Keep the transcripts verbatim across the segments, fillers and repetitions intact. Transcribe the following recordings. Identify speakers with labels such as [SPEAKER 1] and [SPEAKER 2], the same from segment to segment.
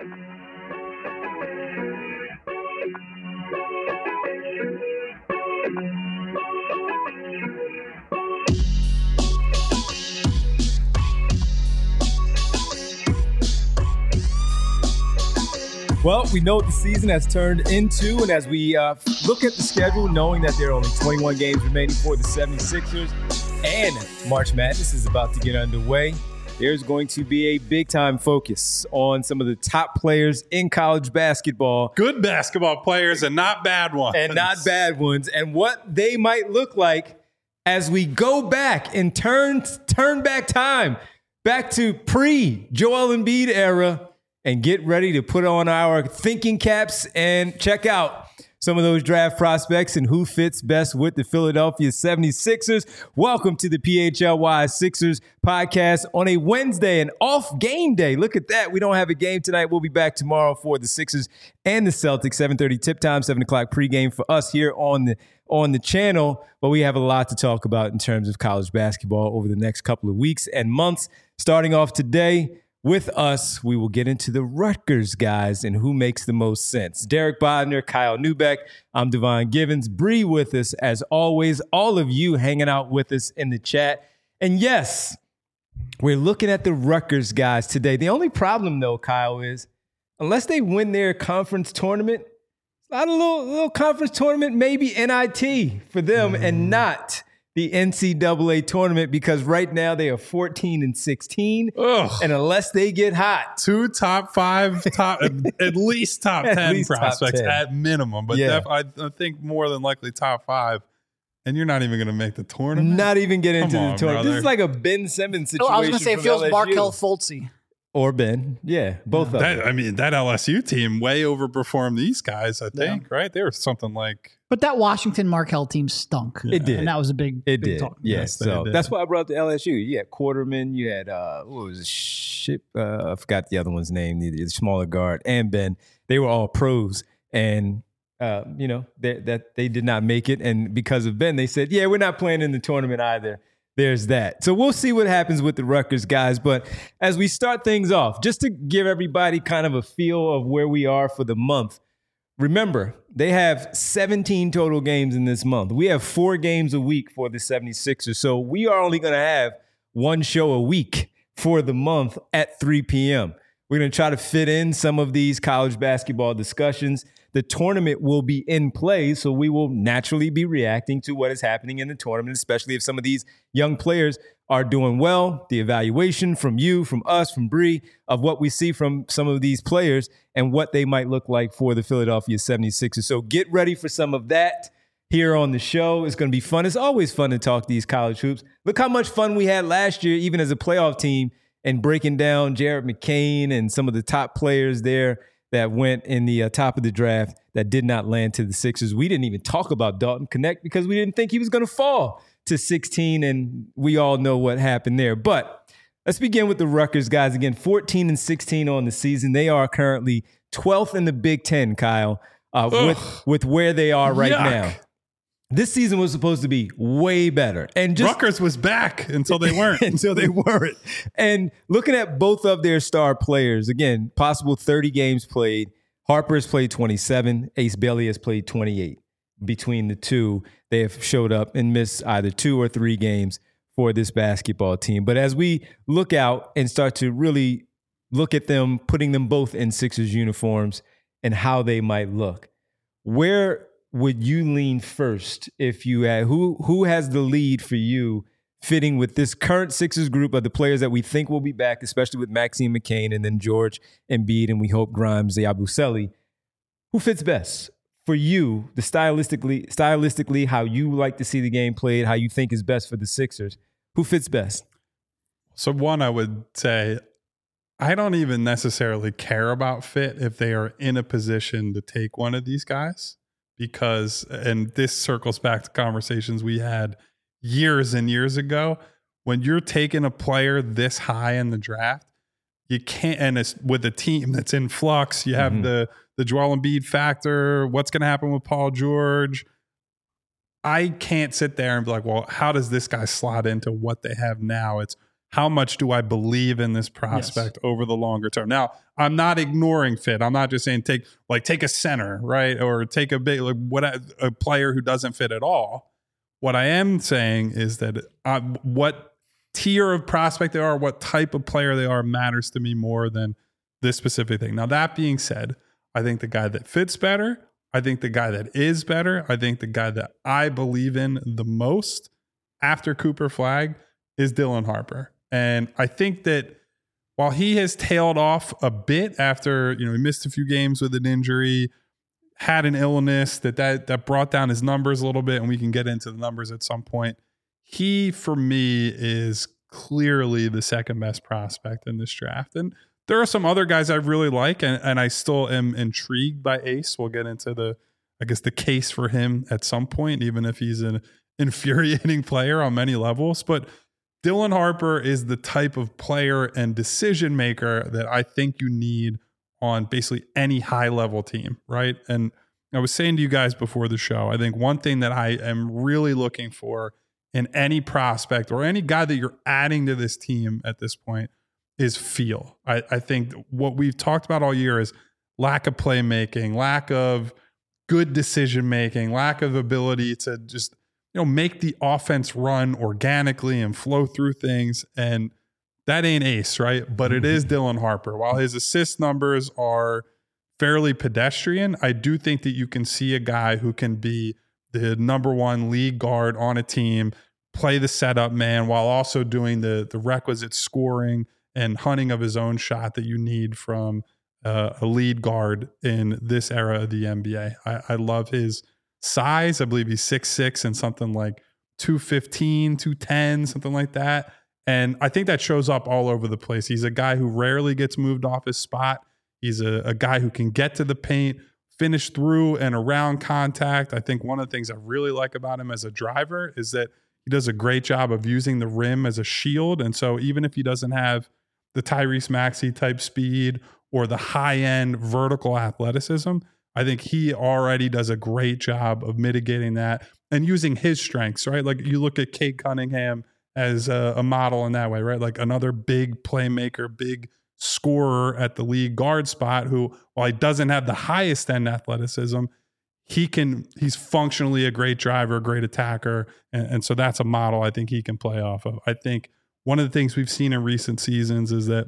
[SPEAKER 1] Well, we know what the season has turned into, and as we uh, look at the schedule, knowing that there are only twenty-one games remaining for the seventy-sixers, and March Madness is about to get underway, there's going to be a big-time focus on some of the top players in college basketball.
[SPEAKER 2] Good basketball players and not bad ones.
[SPEAKER 1] And not bad ones, and what they might look like as we go back and turn, turn back time, back to pre-Joel Embiid era, and get ready to put on our thinking caps and check out some of those draft prospects and who fits best with the Philadelphia seventy-sixers. Welcome to the P H L Y Sixers podcast on a Wednesday, an off game day. Look at that. We don't have a game tonight. We'll be back tomorrow for the Sixers and the Celtics. seven thirty tip time, seven o'clock pregame for us here on the on the channel. But we have a lot to talk about in terms of college basketball over the next couple of weeks and months. Starting off today, with us, we will get into the Rutgers guys and who makes the most sense. Derek Bodner, Kyle Neubeck, I'm Devon Givens. Bree with us, as always. All of you hanging out with us in the chat. And yes, we're looking at the Rutgers guys today. The only problem, though, Kyle, is unless they win their conference tournament, it's not a little, little conference tournament, maybe N I T for them, mm. and not the N C double A tournament, because right now they are fourteen and sixteen. Ugh. And unless they get hot,
[SPEAKER 2] two top five, top at least top at ten least prospects top ten. At minimum, but yeah. def, I, I think more than likely top five. And you're not even going to make the tournament.
[SPEAKER 1] Not even get into
[SPEAKER 2] Come
[SPEAKER 1] the
[SPEAKER 2] on,
[SPEAKER 1] tournament.
[SPEAKER 2] Brother.
[SPEAKER 1] This is like a Ben Simmons situation.
[SPEAKER 3] Oh, I was going to say it feels
[SPEAKER 1] L S U.
[SPEAKER 3] Markel Fultz.
[SPEAKER 1] Or Ben. Yeah, both yeah. of
[SPEAKER 2] that,
[SPEAKER 1] them.
[SPEAKER 2] I mean, that L S U team way overperformed these guys, I think, yeah. right? They were something like...
[SPEAKER 3] But that Washington Markel team stunk.
[SPEAKER 1] Yeah. It did.
[SPEAKER 3] And that was a big,
[SPEAKER 1] it
[SPEAKER 3] big
[SPEAKER 1] did.
[SPEAKER 3] talk.
[SPEAKER 1] Yeah,
[SPEAKER 2] yes,
[SPEAKER 1] so
[SPEAKER 2] did.
[SPEAKER 1] That's why I brought up the L S U. You had Quarterman, you had, uh, what was it, Ship? Uh, I forgot the other one's name, the, the smaller guard, and Ben. They were all pros, and, uh, you know, they, that they did not make it. And because of Ben, they said, yeah, we're not playing in the tournament either. There's that. So we'll see what happens with the Rutgers guys. But as we start things off, just to give everybody kind of a feel of where we are for the month, remember, they have seventeen total games in this month. We have four games a week for the seventy-sixers. So we are only going to have one show a week for the month at three p.m. We're going to try to fit in some of these college basketball discussions. The tournament will be in play, so we will naturally be reacting to what is happening in the tournament, especially if some of these young players are doing well. The evaluation from you, from us, from Bree, of what we see from some of these players and what they might look like for the Philadelphia seventy-sixers. So get ready for some of that here on the show. It's going to be fun. It's always fun to talk these college hoops. Look how much fun we had last year, even as a playoff team, and breaking down Jared McCain and some of the top players there that went in the uh, top of the draft that did not land to the Sixers. We didn't even talk about Dalton Knecht because we didn't think he was going to fall to sixteen, and we all know what happened there. But let's begin with the Rutgers guys. Again, fourteen and sixteen on the season. They are currently twelfth in the Big Ten, Kyle, uh, with, with where they are right
[SPEAKER 2] Yuck.
[SPEAKER 1] now. This season was supposed to be way better. And just
[SPEAKER 2] Rutgers was back until they weren't.
[SPEAKER 1] until they weren't. And looking at both of their star players, again, possible thirty games played. Harper has played twenty-seven. Ace Bailey has played twenty-eight. Between the two, they have showed up and missed either two or three games for this basketball team. But as we look out and start to really look at them, putting them both in Sixers uniforms and how they might look, where would you lean first if you had, who who has the lead for you fitting with this current Sixers group of the players that we think will be back, especially with Maxime McCain and then George Embiid and we hope Grimes, Yabusele? Who fits best for you, the stylistically, stylistically, how you like to see the game played, how you think is best for the Sixers? Who fits best?
[SPEAKER 2] So one, I would say, I don't even necessarily care about fit if they are in a position to take one of these guys. Because, and this circles back to conversations we had years and years ago, when you're taking a player this high in the draft, you can't, and it's with a team that's in flux, you have mm-hmm. the, the Joel Embiid factor, what's going to happen with Paul George. I can't sit there and be like, well, how does this guy slot into what they have now? It's how much do I believe in this prospect yes. over the longer term? Now, I'm not ignoring fit. I'm not just saying take like take a center, right? Or take a big like what a player who doesn't fit at all. What I am saying is that uh, what tier of prospect they are, what type of player they are matters to me more than this specific thing. Now, that being said, I think the guy that fits better, I think the guy that is better, I think the guy that I believe in the most after Cooper Flagg is Dylan Harper. And I think that while he has tailed off a bit after, you know, he missed a few games with an injury, had an illness that, that that brought down his numbers a little bit, and we can get into the numbers at some point. He, for me, is clearly the second best prospect in this draft. And there are some other guys I really like, and, and I still am intrigued by Ace. We'll get into the, I guess, the case for him at some point, even if he's an infuriating player on many levels. But Dylan Harper is the type of player and decision maker that I think you need on basically any high level team, right? And I was saying to you guys before the show, I think one thing that I am really looking for in any prospect or any guy that you're adding to this team at this point is feel. I, I think what we've talked about all year is lack of playmaking, lack of good decision making, lack of ability to just, you know, make the offense run organically and flow through things. And that ain't Ace, right? But it is Dylan Harper. While his assist numbers are fairly pedestrian, I do think that you can see a guy who can be the number one lead guard on a team, play the setup man while also doing the the requisite scoring and hunting of his own shot that you need from uh, a lead guard in this era of the N B A. I, I love his size. I believe he's six six and something like two fifteen, two ten, something like that. And I think that shows up all over the place. He's a guy who rarely gets moved off his spot. He's a, a guy who can get to the paint, finish through and around contact. I think one of the things I really like about him as a driver is that he does a great job of using the rim as a shield. And so even if he doesn't have the Tyrese Maxey type speed or the high-end vertical athleticism, I think he already does a great job of mitigating that and using his strengths, right? Like you look at Cade Cunningham as a, a model in that way, right? Like another big playmaker, big scorer at the league guard spot who, while he doesn't have the highest end athleticism, he can, he's functionally a great driver, a great attacker. And, and so that's a model I think he can play off of. I think one of the things we've seen in recent seasons is that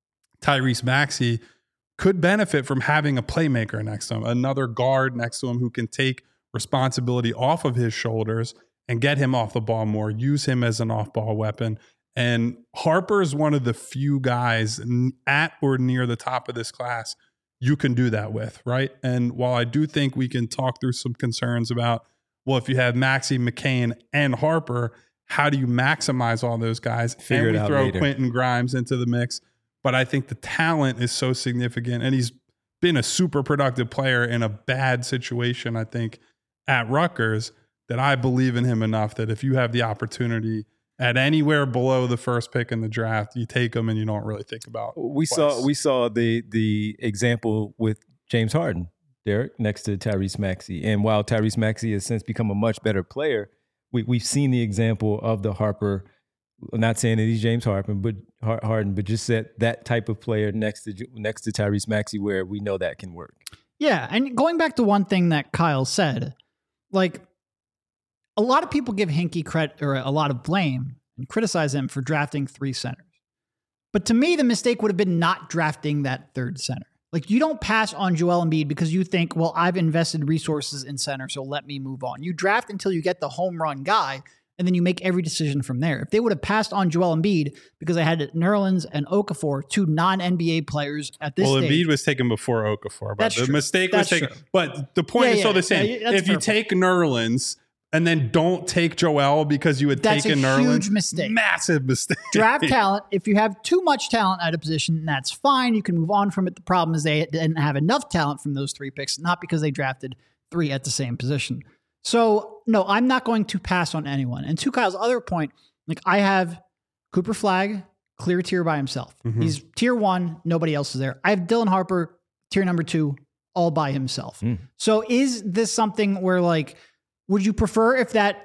[SPEAKER 2] Tyrese Maxey could benefit from having a playmaker next to him, another guard next to him who can take responsibility off of his shoulders and get him off the ball more, use him as an off-ball weapon. And Harper is one of the few guys at or near the top of this class you can do that with, right? And while I do think we can talk through some concerns about, well, if you have Maxey, McCain, and Harper, how do you maximize all those guys?
[SPEAKER 1] Figure
[SPEAKER 2] and we
[SPEAKER 1] it out
[SPEAKER 2] throw
[SPEAKER 1] later.
[SPEAKER 2] Quentin Grimes into the mix. But I think the talent is so significant, and he's been a super productive player in a bad situation, I think, at Rutgers, that I believe in him enough that if you have the opportunity at anywhere below the first pick in the draft, you take him and you don't really think about
[SPEAKER 1] We
[SPEAKER 2] twice.
[SPEAKER 1] saw we saw the the example with James Harden, Derek, next to Tyrese Maxey. And while Tyrese Maxey has since become a much better player, we, we've seen the example of the Harper. I'm not saying that he's James Harden, but Harden, but just that that type of player next to next to Tyrese Maxey, where we know that can work.
[SPEAKER 3] Yeah, and going back to one thing that Kyle said, like a lot of people give Hinkie credit or a lot of blame and criticize him for drafting three centers. But to me, the mistake would have been not drafting that third center. Like you don't pass on Joel Embiid because you think, well, I've invested resources in center, so let me move on. You draft until you get the home run guy, and then you make every decision from there. If they would have passed on Joel Embiid because they had Nerlens and Okafor, two non-N B A players at this
[SPEAKER 2] well,
[SPEAKER 3] stage.
[SPEAKER 2] Well, Embiid was taken before Okafor, but
[SPEAKER 3] That's
[SPEAKER 2] the
[SPEAKER 3] true.
[SPEAKER 2] mistake
[SPEAKER 3] That's
[SPEAKER 2] was taken.
[SPEAKER 3] true.
[SPEAKER 2] But the point
[SPEAKER 3] Yeah,
[SPEAKER 2] is
[SPEAKER 3] yeah,
[SPEAKER 2] still the same.
[SPEAKER 3] yeah, that's
[SPEAKER 2] if you
[SPEAKER 3] fair
[SPEAKER 2] take Nerlens and then don't take Joel because you had
[SPEAKER 3] That's
[SPEAKER 2] taken
[SPEAKER 3] a
[SPEAKER 2] Nerlens,
[SPEAKER 3] huge mistake.
[SPEAKER 2] Massive mistake.
[SPEAKER 3] Draft talent. If you have too much talent at a position, that's fine. You can move on from it. The problem is they didn't have enough talent from those three picks, not because they drafted three at the same position. So, no, I'm not going to pass on anyone. And to Kyle's other point, like I have Cooper Flagg, clear tier by himself. Mm-hmm. He's tier one. Nobody else is there. I have Dylan Harper, tier number two, all by himself. Mm. So is this something where like, would you prefer if that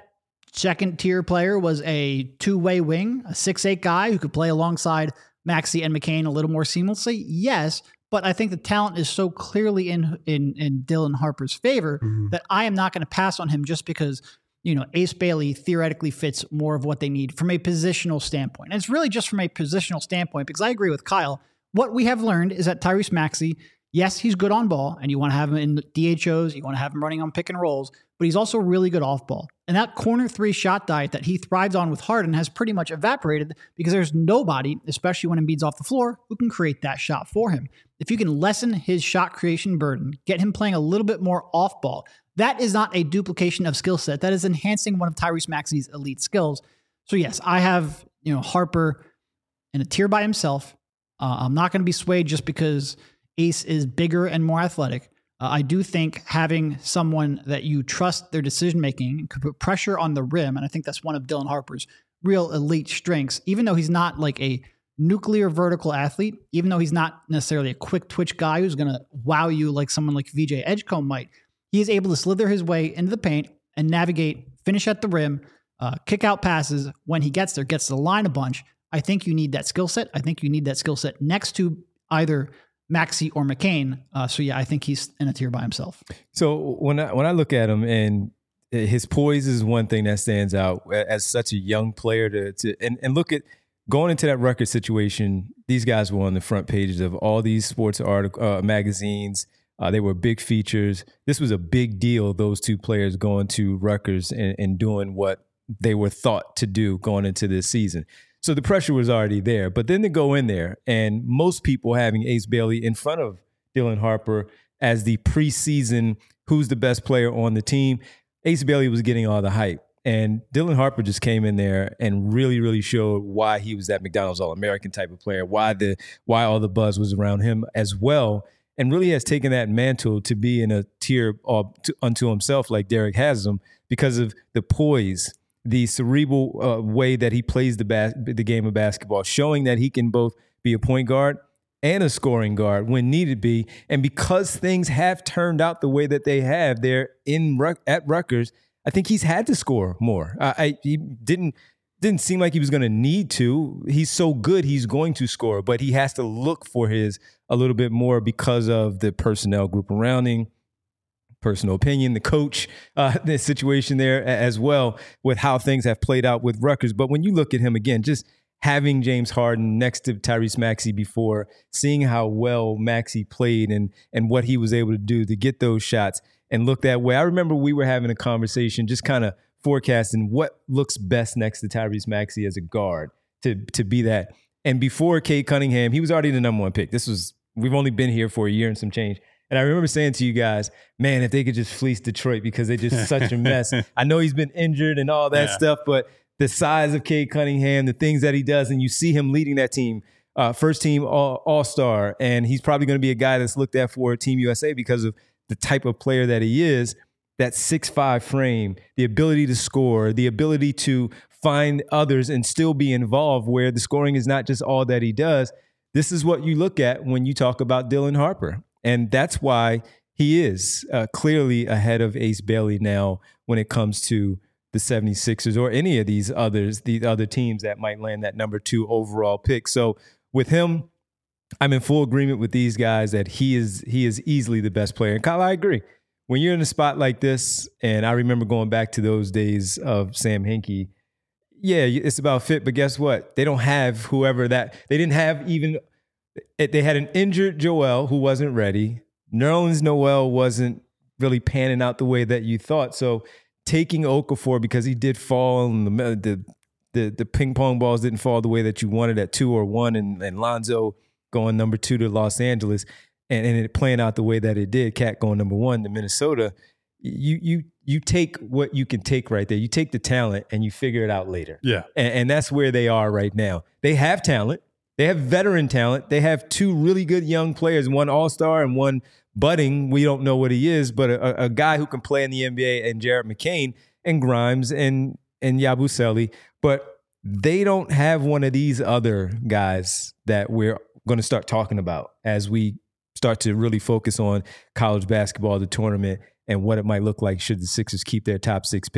[SPEAKER 3] second tier player was a two-way wing, a six eight guy who could play alongside Maxey and McCain a little more seamlessly? Yes, but I think the talent is so clearly in in, in Dylan Harper's favor mm-hmm. that I am not going to pass on him just because, you know, Ace Bailey theoretically fits more of what they need from a positional standpoint. And it's really just from a positional standpoint, because I agree with Kyle. What we have learned is that Tyrese Maxey, yes, he's good on ball, and you want to have him in D H Os, you want to have him running on pick and rolls, but he's also really good off ball. And that corner three shot diet that he thrives on with Harden has pretty much evaporated because there's nobody, especially when Embiid's off the floor, who can create that shot for him. If you can lessen his shot creation burden, get him playing a little bit more off ball, that is not a duplication of skill set. That is enhancing one of Tyrese Maxey's elite skills. So yes, I have, you know, Harper in a tier by himself. Uh, I'm not going to be swayed just because Ace is bigger and more athletic. Uh, I do think having someone that you trust their decision-making could put pressure on the rim, and I think that's one of Dylan Harper's real elite strengths, even though he's not like a nuclear vertical athlete, even though he's not necessarily a quick twitch guy who's going to wow you like someone like V J Edgecombe might. He is able to slither his way into the paint and navigate, finish at the rim, uh, kick out passes when he gets there, gets to the line a bunch. I think you need that skill set. I think you need that skill set next to either Maxey or McCain. Uh, so yeah, I think he's in a tier by himself.
[SPEAKER 1] So when I when I look at him, and his poise is one thing that stands out as such a young player to, to and, and look at going into that record situation. These guys were on the front pages of all these sports article uh, magazines. Uh, they were big features. This was a big deal, those two players going to Rutgers and, and doing what they were thought to do going into this season. So the pressure was already there. But then to go in there, and most people having Ace Bailey in front of Dylan Harper as the preseason who's the best player on the team, Ace Bailey was getting all the hype. And Dylan Harper just came in there and really, really showed why he was that McDonald's All-American type of player, why the why all the buzz was around him as well, and really has taken that mantle to be in a tier all to, unto himself like Derek has him because of the poise, the cerebral uh, way that he plays the bas- the game of basketball, showing that he can both be a point guard and a scoring guard when needed be. And because things have turned out the way that they have there in at Rutgers, I think he's had to score more. Uh, I, he didn't didn't seem like he was going to need to. He's so good, he's going to score, but he has to look for his a little bit more because of the personnel group around him. Personal opinion, the coach, uh, the situation there as well with how things have played out with Rutgers. But when you look at him again, just having James Harden next to Tyrese Maxey before, seeing how well Maxey played and and what he was able to do to get those shots and look that way. I remember we were having a conversation just kind of forecasting what looks best next to Tyrese Maxey as a guard to, to be that. And before Cade Cunningham, he was already the number one pick. This was, we've only been here for a year and some change. And I remember saying to you guys, man, if they could just fleece Detroit because they're just such a mess. I know he's been injured and all that yeah. stuff, but the size of Cade Cunningham, the things that he does, and you see him leading that team, uh, first team all, all-star, and he's probably going to be a guy that's looked at for Team U S A because of the type of player that he is, that six five frame, the ability to score, the ability to find others and still be involved where the scoring is not just all that he does. This is what you look at when you talk about Dylan Harper. And that's why he is uh, clearly ahead of Ace Bailey now when it comes to the seventy-sixers or any of these others, the other teams that might land that number two overall pick. So with him, I'm in full agreement with these guys that he is he is easily the best player. And Kyle, I agree. When you're in a spot like this, and I remember going back to those days of Sam Hinkie, yeah, it's about fit, but guess what? They don't have whoever that – they didn't have even – they had an injured Joel who wasn't ready. Nerlens Noel wasn't really panning out the way that you thought. So taking Okafor because he did fall and the the the, the ping pong balls didn't fall the way that you wanted at two or one, and, and Lonzo going number two to Los Angeles and, and it playing out the way that it did, Cat going number one to Minnesota. You you you take what you can take right there. You take the talent and you figure it out later.
[SPEAKER 2] Yeah.
[SPEAKER 1] And, and that's where they are right now. They have talent. They have veteran talent. They have two really good young players, one all-star and one budding. We don't know what he is, but a, a guy who can play in the N B A, and Jared McCain and Grimes and, and Yabusele. But they don't have one of these other guys that we're going to start talking about as we start to really focus on college basketball, the tournament, and what it might look like should the Sixers keep their top six pick.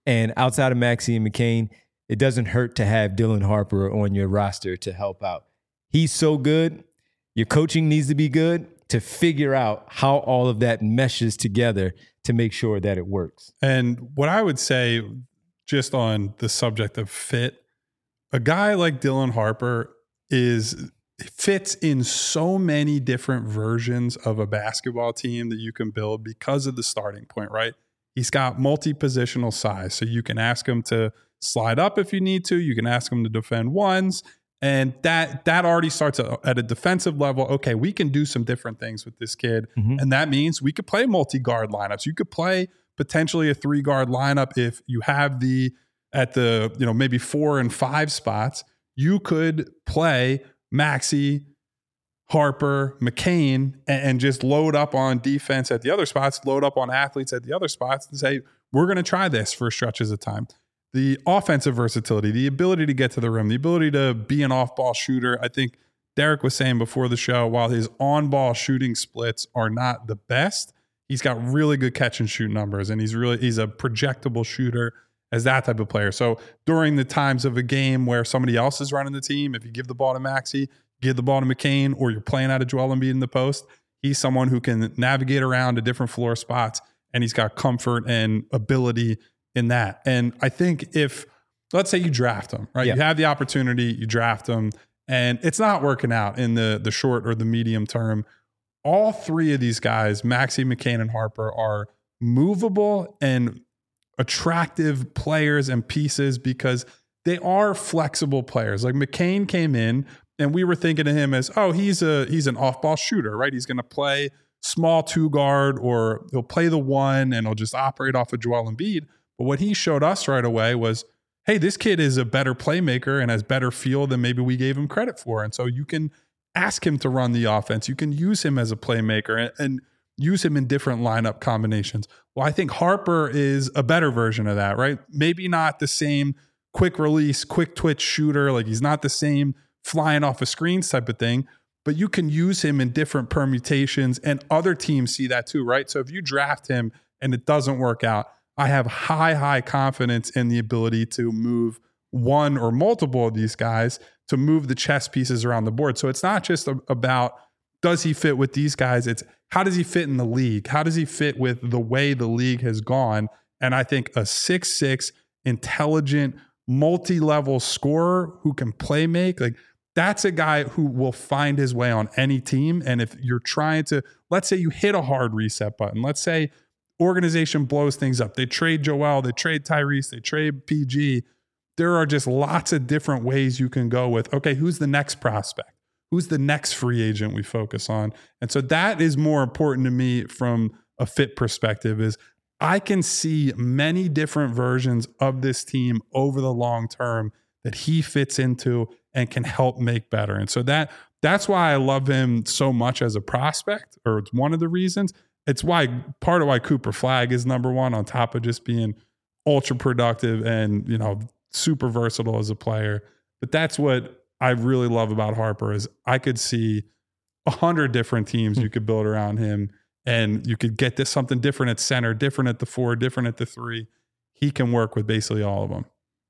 [SPEAKER 1] And outside of Maxey and McCain, it doesn't hurt to have Dylan Harper on your roster to help out. He's so good. Your coaching needs to be good to figure out how all of that meshes together to make sure that it works.
[SPEAKER 2] And what I would say, just on the subject of fit, a guy like Dylan Harper is fits in so many different versions of a basketball team that you can build because of the starting point, right? He's got multi-positional size, so you can ask him to slide up if you need to. You can ask him to defend ones. And that that already starts at a defensive level. Okay, we can do some different things with this kid. Mm-hmm. And that means we could play multi-guard lineups. You could play potentially a three-guard lineup if you have the, at the, you know, maybe four and five spots. You could play Maxey, Harper, McCain, and, and just load up on defense at the other spots, load up on athletes at the other spots and say, we're going to try this for stretches of time. The offensive versatility, the ability to get to the rim, the ability to be an off-ball shooter. I think Derek was saying before the show, while his on-ball shooting splits are not the best, he's got really good catch and shoot numbers, and he's really he's a projectable shooter as that type of player. So during the times of a game where somebody else is running the team, if you give the ball to Maxey, give the ball to McCain, or you're playing out of Joel Embiid in the post, he's someone who can navigate around to different floor spots, and he's got comfort and ability in that. And I think if, let's say you draft him, right? Yeah. You have the opportunity, you draft him, and it's not working out in the, the short or the medium term. All three of these guys, Maxey, McCain, and Harper, are movable and attractive players and pieces because they are flexible players. Like McCain came in and we were thinking of him as, oh, he's a he's an off-ball shooter, right? He's going to play small two guard, or he'll play the one and he'll just operate off of Joel Embiid. But what he showed us right away was, hey, this kid is a better playmaker and has better feel than maybe we gave him credit for. And so you can ask him to run the offense. You can use him as a playmaker and, and use him in different lineup combinations. Well, I think Harper is a better version of that, right? Maybe not the same quick release, quick twitch shooter. Like he's not the same flying off of screens type of thing, but you can use him in different permutations, and other teams see that too, right? So if you draft him and it doesn't work out, I have high, high confidence in the ability to move one or multiple of these guys to move the chess pieces around the board. So it's not just a, about does he fit with these guys? It's how does he fit in the league? How does he fit with the way the league has gone? And I think a six six, intelligent, multi-level scorer who can play make, like that's a guy who will find his way on any team. And if you're trying to, let's say you hit a hard reset button, let's say organization blows things up. They trade Joel, they trade Tyrese, they trade P G. There are just lots of different ways you can go with, okay, who's the next prospect? Who's the next free agent we focus on? And so that is more important to me from a fit perspective, is I can see many different versions of this team over the long term that he fits into and can help make better. And so that that's why I love him so much as a prospect, or it's one of the reasons. It's why part of why Cooper Flagg is number one, on top of just being ultra productive and, you know, super versatile as a player. But that's what I really love about Harper, is I could see a hundred different teams you could build around him, and you could get this something different at center, different at the four, different at the three. He can work with basically all of them.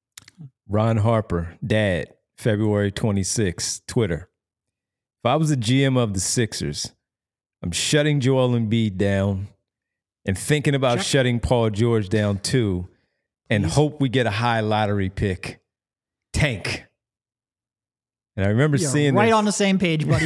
[SPEAKER 1] Ron Harper, dad, February twenty-sixth, Twitter. If I was a G M of the Sixers, I'm shutting Joel Embiid down and thinking about Check. shutting Paul George down too, and He's, hope we get a high lottery pick. Tank. And I remember
[SPEAKER 3] You're
[SPEAKER 1] seeing
[SPEAKER 3] right
[SPEAKER 1] this.
[SPEAKER 3] on the same page, buddy.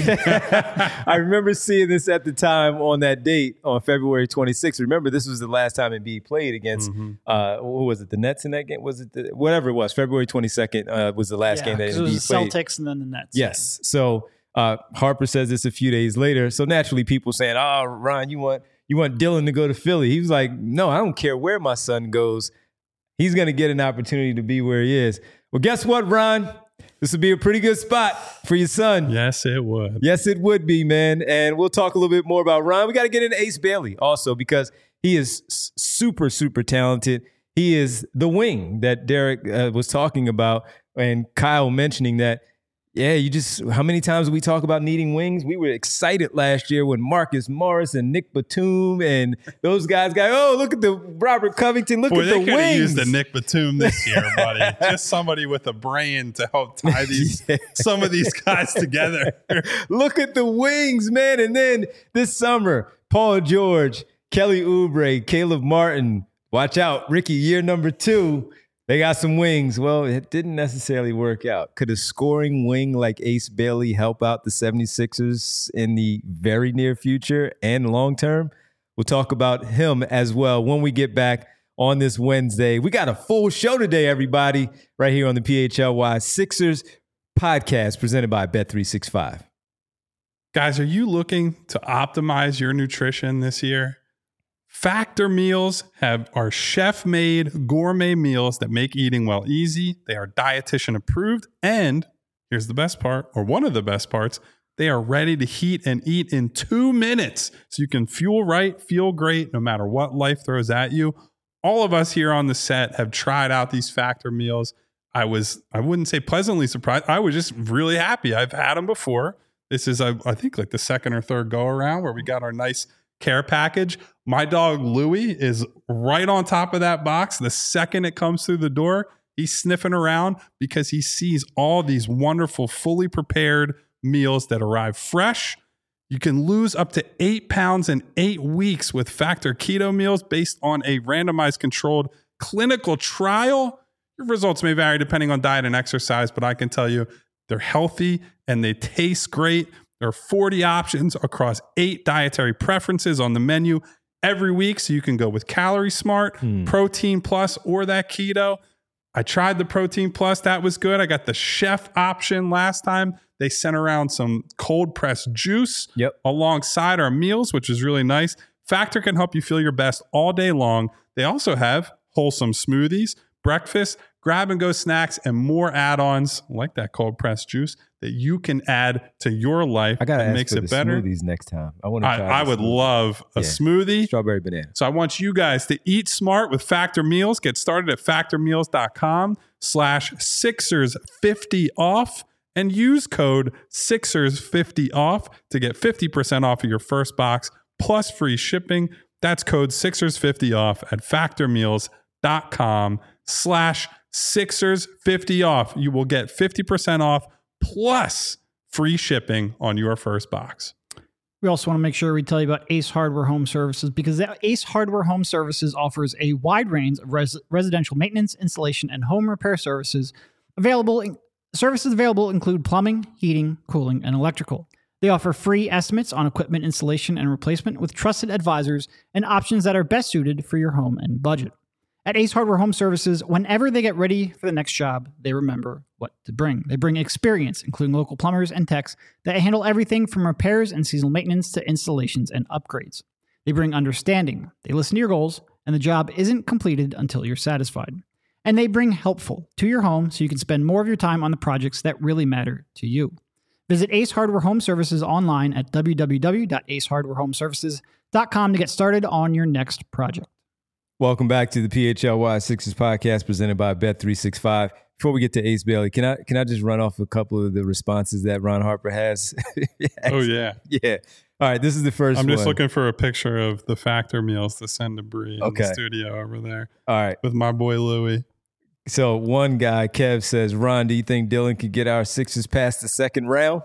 [SPEAKER 1] I remember seeing this at the time on that date on February twenty-sixth. Remember, this was the last time Embiid played against, mm-hmm. uh, what was it, the Nets in that game? Was it the, whatever it was? February twenty-second uh, was the last
[SPEAKER 3] yeah,
[SPEAKER 1] game that Embiid
[SPEAKER 3] it was the
[SPEAKER 1] played.
[SPEAKER 3] Celtics and then the Nets.
[SPEAKER 1] Yes. So uh, Harper says this a few days later. So naturally, people saying, "Oh, Ron, you want you want Dylan to go to Philly?" He was like, "No, I don't care where my son goes. He's going to get an opportunity to be where he is." Well, guess what, Ron? This would be a pretty good spot for your son.
[SPEAKER 2] Yes, it would.
[SPEAKER 1] Yes, it would be, man. And we'll talk a little bit more about Ron. We got to get into Ace Bailey also, because he is super, super talented. He is the wing that Derek uh, was talking about, and Kyle mentioning that Yeah, you just, how many times we talk about needing wings? We were excited last year when Marcus Morris and Nick Batum and those guys got, oh, look at the Robert Covington, look
[SPEAKER 2] Boy,
[SPEAKER 1] at
[SPEAKER 2] they
[SPEAKER 1] the
[SPEAKER 2] could have
[SPEAKER 1] wings.
[SPEAKER 2] used the Nick Batum this year, buddy. Just somebody with a brain to help tie these
[SPEAKER 1] Yeah.
[SPEAKER 2] some of these guys together.
[SPEAKER 1] Look at the wings, man. And then this summer, Paul George, Kelly Oubre, Caleb Martin, watch out, Ricky, year number two. They got some wings. Well, it didn't necessarily work out. Could a scoring wing like Ace Bailey help out the seventy-sixers in the very near future and long term? We'll talk about him as well when we get back on this Wednesday. We got a full show today, everybody, right here on the P H L Y Sixers podcast presented by Bet three sixty-five.
[SPEAKER 2] Guys, are you looking to optimize your nutrition this year? Factor meals have are chef-made gourmet meals that make eating well easy. They are dietitian approved, and here's the best part, or one of the best parts, they are ready to heat and eat in two minutes. So you can fuel right, feel great, no matter what life throws at you. All of us here on the set have tried out these Factor meals. I was, I wouldn't say pleasantly surprised. I was just really happy. I've had them before. This is, I, I think, like the second or third go around where we got our nice care package. My dog Louie is right on top of that box. The second it comes through the door, he's sniffing around because he sees all these wonderful, fully prepared meals that arrive fresh. You can lose up to eight pounds in eight weeks with Factor Keto meals based on a randomized controlled clinical trial. Your results may vary depending on diet and exercise, but I can tell you they're healthy and they taste great. There are forty options across eight dietary preferences on the menu every week, so you can go with Calorie Smart, hmm. Protein Plus, or that keto. I tried the Protein Plus. That was good. I got the chef option last time. They sent around some cold pressed juice
[SPEAKER 1] yep.
[SPEAKER 2] alongside our meals, which is really nice. Factor can help you feel your best all day long. They also have wholesome smoothies, breakfast, grab and go snacks, and more add-ons like that cold pressed juice that you can add to your life.
[SPEAKER 1] I gotta
[SPEAKER 2] that
[SPEAKER 1] ask
[SPEAKER 2] makes
[SPEAKER 1] for
[SPEAKER 2] it
[SPEAKER 1] the
[SPEAKER 2] better.
[SPEAKER 1] Smoothies next time. I want to.
[SPEAKER 2] I, I would
[SPEAKER 1] smoothie.
[SPEAKER 2] love a
[SPEAKER 1] yeah.
[SPEAKER 2] smoothie,
[SPEAKER 1] strawberry banana.
[SPEAKER 2] So I want you guys to eat smart with Factor Meals. Get started at factormeals.com slash Sixers fifty off and use code Sixers fifty off to get fifty percent off of your first box plus free shipping. That's code Sixers fifty off at factormeals.com slash Sixers fifty off. You will get fifty percent off plus free shipping on your first box.
[SPEAKER 3] We also want to make sure we tell you about Ace Hardware Home Services, because Ace Hardware Home Services offers a wide range of res- residential maintenance, installation, and home repair services. Available in- services available include plumbing, heating, cooling, and electrical. They offer free estimates on equipment installation and replacement with trusted advisors and options that are best suited for your home and budget. At Ace Hardware Home Services, whenever they get ready for the next job, they remember what to bring. They bring experience, including local plumbers and techs that handle everything from repairs and seasonal maintenance to installations and upgrades. They bring understanding. They listen to your goals, and the job isn't completed until you're satisfied. And they bring helpful to your home so you can spend more of your time on the projects that really matter to you. Visit Ace Hardware Home Services online at w w w dot ace hardware home services dot com to get started on your next project.
[SPEAKER 1] Welcome back to the P H L Y Sixers podcast presented by Bet three sixty-five. Before we get to Ace Bailey, can I can I just run off a couple of the responses that Ron Harper has?
[SPEAKER 2] Oh, yeah.
[SPEAKER 1] Yeah. All right, this is the first
[SPEAKER 2] I'm
[SPEAKER 1] one.
[SPEAKER 2] just looking for a picture of the Factor Meals to send to Bree
[SPEAKER 1] okay.
[SPEAKER 2] in the studio over there.
[SPEAKER 1] All right.
[SPEAKER 2] With my boy Louie.
[SPEAKER 1] So one guy, Kev, says, Ron, do you think Dylan could get our Sixers past the second round?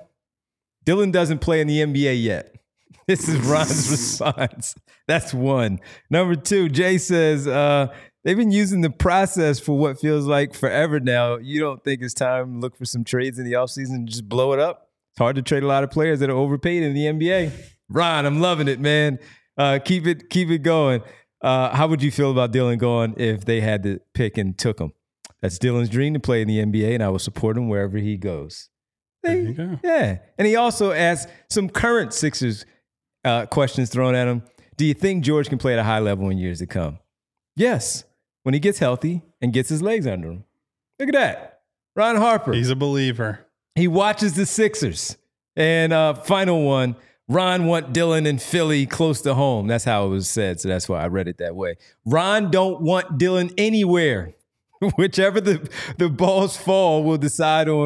[SPEAKER 1] Dylan doesn't play in the N B A yet. This is Ron's response. That's one. Number two, Jay says, uh, they've been using the process for what feels like forever now. You don't think it's time to look for some trades in the offseason and just blow it up? It's hard to trade a lot of players that are overpaid in the N B A. Ron, I'm loving it, man. Uh, keep it keep it going. Uh, how would you feel about Dylan going if they had to pick and took him? That's Dylan's dream to play in the N B A, and I will support him wherever he goes.
[SPEAKER 2] There you go.
[SPEAKER 1] Yeah. And he also asked some current Sixers uh, questions thrown at him. Do you think George can play at a high level in years to come? Yes. When he gets healthy and gets his legs under him. Look at that. Ron Harper.
[SPEAKER 2] He's a believer.
[SPEAKER 1] He watches the Sixers. And uh, final one, Ron want Dylan in Philly close to home. That's how it was said, so that's why I read it that way. Ron don't want Dylan anywhere. Whichever the, the balls fall will decide on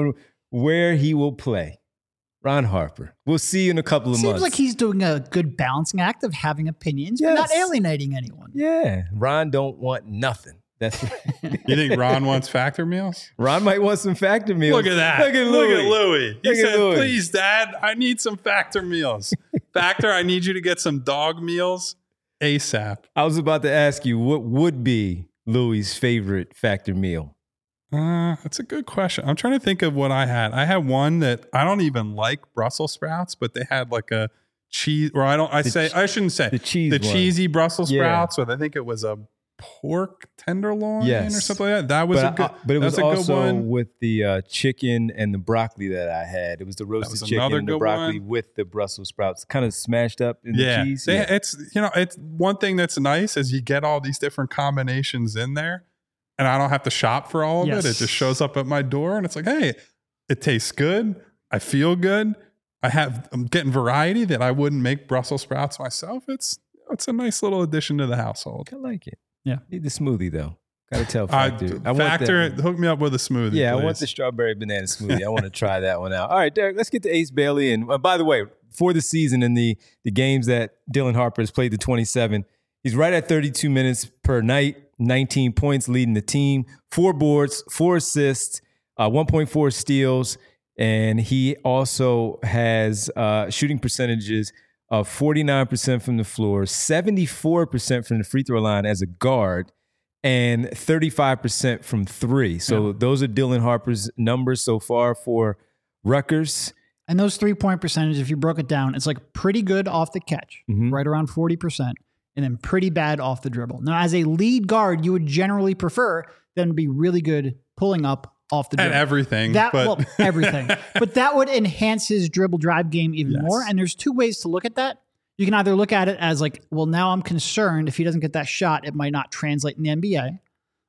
[SPEAKER 1] where he will play. Ron Harper. We'll see you in a couple of
[SPEAKER 3] Seems
[SPEAKER 1] months.
[SPEAKER 3] like he's doing a good balancing act of having opinions, but not
[SPEAKER 1] Yes.
[SPEAKER 3] alienating anyone.
[SPEAKER 1] Yeah. Ron don't want nothing. That's
[SPEAKER 2] You think Ron wants factor meals?
[SPEAKER 1] Ron might want some factor meals.
[SPEAKER 2] Look at that.
[SPEAKER 1] Look at Louis.
[SPEAKER 2] Look at Louis. He
[SPEAKER 1] Look at
[SPEAKER 2] said,
[SPEAKER 1] Louis.
[SPEAKER 2] please, Dad, I need some factor meals. Factor, I need you to get some dog meals ASAP.
[SPEAKER 1] I was about to ask you, what would be Louis' favorite factor meal?
[SPEAKER 2] Uh, that's a good question. I'm trying to think of what I had. I had one that I don't even like Brussels sprouts, but they had like a cheese, or I don't, I
[SPEAKER 1] The
[SPEAKER 2] say,
[SPEAKER 1] che-
[SPEAKER 2] I shouldn't say
[SPEAKER 1] The cheese
[SPEAKER 2] the
[SPEAKER 1] one.
[SPEAKER 2] cheesy Brussels
[SPEAKER 1] Yeah.
[SPEAKER 2] sprouts, or I think it was a pork tenderloin
[SPEAKER 1] Yes.
[SPEAKER 2] or something like that. That was
[SPEAKER 1] but,
[SPEAKER 2] a good,
[SPEAKER 1] I- but it was
[SPEAKER 2] that's a good
[SPEAKER 1] also
[SPEAKER 2] one.
[SPEAKER 1] with the uh, chicken and the broccoli that I had. It was the roasted
[SPEAKER 2] was
[SPEAKER 1] chicken
[SPEAKER 2] another
[SPEAKER 1] and the
[SPEAKER 2] good
[SPEAKER 1] broccoli
[SPEAKER 2] one.
[SPEAKER 1] with the Brussels sprouts, kind of smashed up in
[SPEAKER 2] yeah,
[SPEAKER 1] the cheese.
[SPEAKER 2] They-
[SPEAKER 1] Yeah.
[SPEAKER 2] it's you know it's one thing that's nice is you get all these different combinations in there, and I don't have to shop for all of
[SPEAKER 3] Yes.
[SPEAKER 2] it. It just shows up at my door, and it's like, hey, it tastes good. I feel good. I have I'm getting variety that I wouldn't make Brussels sprouts myself. It's it's a nice little addition to the household.
[SPEAKER 1] I like it.
[SPEAKER 3] Yeah.
[SPEAKER 1] Need the smoothie though. Got to tell
[SPEAKER 2] I,
[SPEAKER 1] Factor. I want
[SPEAKER 2] factor,
[SPEAKER 1] that.
[SPEAKER 2] hook me up with a smoothie.
[SPEAKER 1] Yeah,
[SPEAKER 2] please.
[SPEAKER 1] I want the strawberry banana smoothie. I want to try that one out. All right, Derek, let's get to Ace Bailey. And uh, by the way, for the season and the the games that Dylan Harper has played, the twenty-seven, he's right at thirty-two minutes per night, nineteen points leading the team, four boards, four assists, uh, one point four steals, and he also has uh, shooting percentages of forty-nine percent from the floor, seventy-four percent from the free throw line as a guard, and thirty-five percent from three. So
[SPEAKER 3] Yeah.
[SPEAKER 1] those are Dylan Harper's numbers so far for Rutgers.
[SPEAKER 3] And those three point percentage, if you broke it down, it's like pretty good off the catch,
[SPEAKER 1] Mhm.
[SPEAKER 3] right around forty percent, and then pretty bad off the dribble. Now, as a lead guard, you would generally prefer them to be really good pulling up off the
[SPEAKER 2] and
[SPEAKER 3] dribble.
[SPEAKER 2] everything.
[SPEAKER 3] That
[SPEAKER 2] but
[SPEAKER 3] well, everything. But that would enhance his dribble drive game even
[SPEAKER 2] Yes.
[SPEAKER 3] more. And there's two ways to look at that. You can either look at it as like, well, now I'm concerned if he doesn't get that shot, it might not translate in the N B A.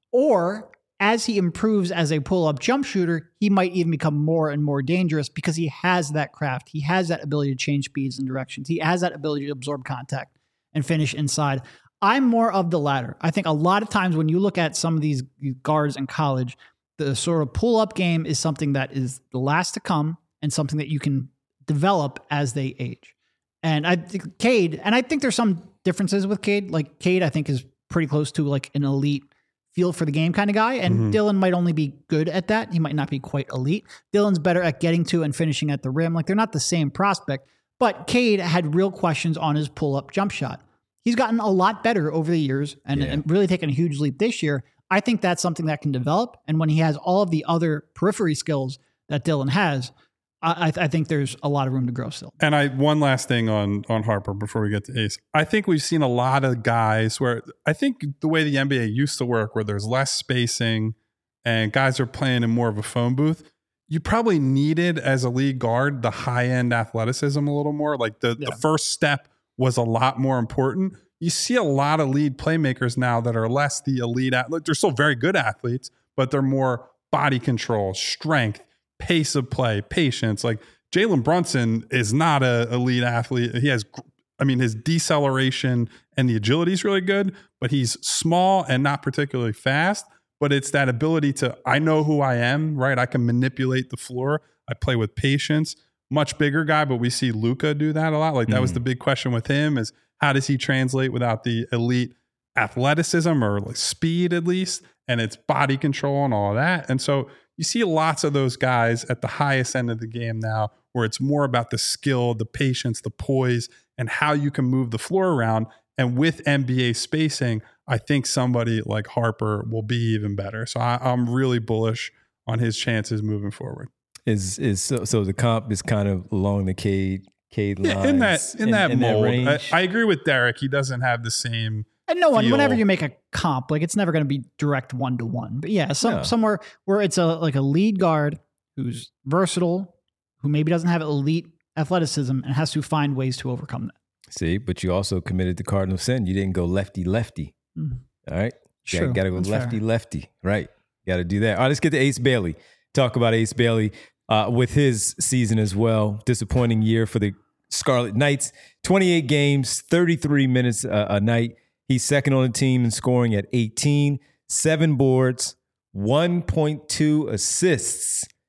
[SPEAKER 3] Or as he improves as a pull-up jump shooter, he might even become more and more dangerous because he has that craft. He has that ability to change speeds and directions. He has that ability to absorb contact and finish inside. I'm more of the latter. I think a lot of times when you look at some of these guards in college, the sort of pull-up game is something that is the last to come and something that you can develop as they age. And I think Cade, and I think there's some differences with Cade. Like Cade, I think is pretty close to like an elite feel for the game kind of guy. And
[SPEAKER 2] Mhm.
[SPEAKER 3] Dylan might only be good at that. He might not be quite elite. Dylan's better at getting to and finishing at the rim. Like they're not the same prospect, but Cade had real questions on his pull-up jump shot. He's gotten a lot better over the years and,
[SPEAKER 1] Yeah.
[SPEAKER 3] and really taken a huge leap this year. I think that's something that can develop. And when he has all of the other periphery skills that Dylan has, I, I think there's a lot of room to grow still.
[SPEAKER 2] And I one last thing on on Harper before we get to Ace. I think we've seen a lot of guys where I think the way the N B A used to work, where there's less spacing and guys are playing in more of a phone booth, you probably needed as a lead guard the high end athleticism a little more. Like the,
[SPEAKER 3] Yeah.
[SPEAKER 2] the first step was a lot more important. You see a lot of lead playmakers now that are less the elite athlete. They're still very good athletes, but they're more body control, strength, pace of play, patience. Like Jalen Brunson is not a elite athlete. He has, I mean, his deceleration and the agility is really good, but he's small and not particularly fast. But it's that ability to, I know who I am, right? I can manipulate the floor. I play with patience. Much bigger guy, but we see Luka do that a lot. Like that was
[SPEAKER 1] Mm.
[SPEAKER 2] the big question with him is how does he translate without the elite athleticism or like speed at least? And it's body control and all of that. And so you see lots of those guys at the highest end of the game now where it's more about the skill, the patience, the poise, and how you can move the floor around. And with N B A spacing, I think somebody like Harper will be even better. So I, I'm really bullish on his chances moving forward.
[SPEAKER 1] Is is so, so the comp is kind of along the Cade Cade lines.
[SPEAKER 2] Yeah, in that in, that mold. I,
[SPEAKER 1] range?
[SPEAKER 2] I agree with Derek. He doesn't have the same.
[SPEAKER 3] And no one,
[SPEAKER 2] feel-
[SPEAKER 3] whenever you make a comp, like it's never going to be direct one to one. But yeah, some
[SPEAKER 1] No.
[SPEAKER 3] somewhere where it's a like a lead guard who's versatile, who maybe doesn't have elite athleticism and has to find ways to overcome that.
[SPEAKER 1] See, but you also committed the cardinal sin. You didn't go lefty lefty.
[SPEAKER 3] Mm.
[SPEAKER 1] All right,
[SPEAKER 3] True.
[SPEAKER 1] got to go
[SPEAKER 3] That's
[SPEAKER 1] lefty
[SPEAKER 3] fair.
[SPEAKER 1] lefty. Right, got to do that. All right, let's get to Ace Bailey. Talk about Ace Bailey uh, with his season as well. Disappointing year for the Scarlet Knights. twenty-eight games, thirty-three minutes a, a night. He's second on the team in scoring at eighteen, seven boards, one point two assists,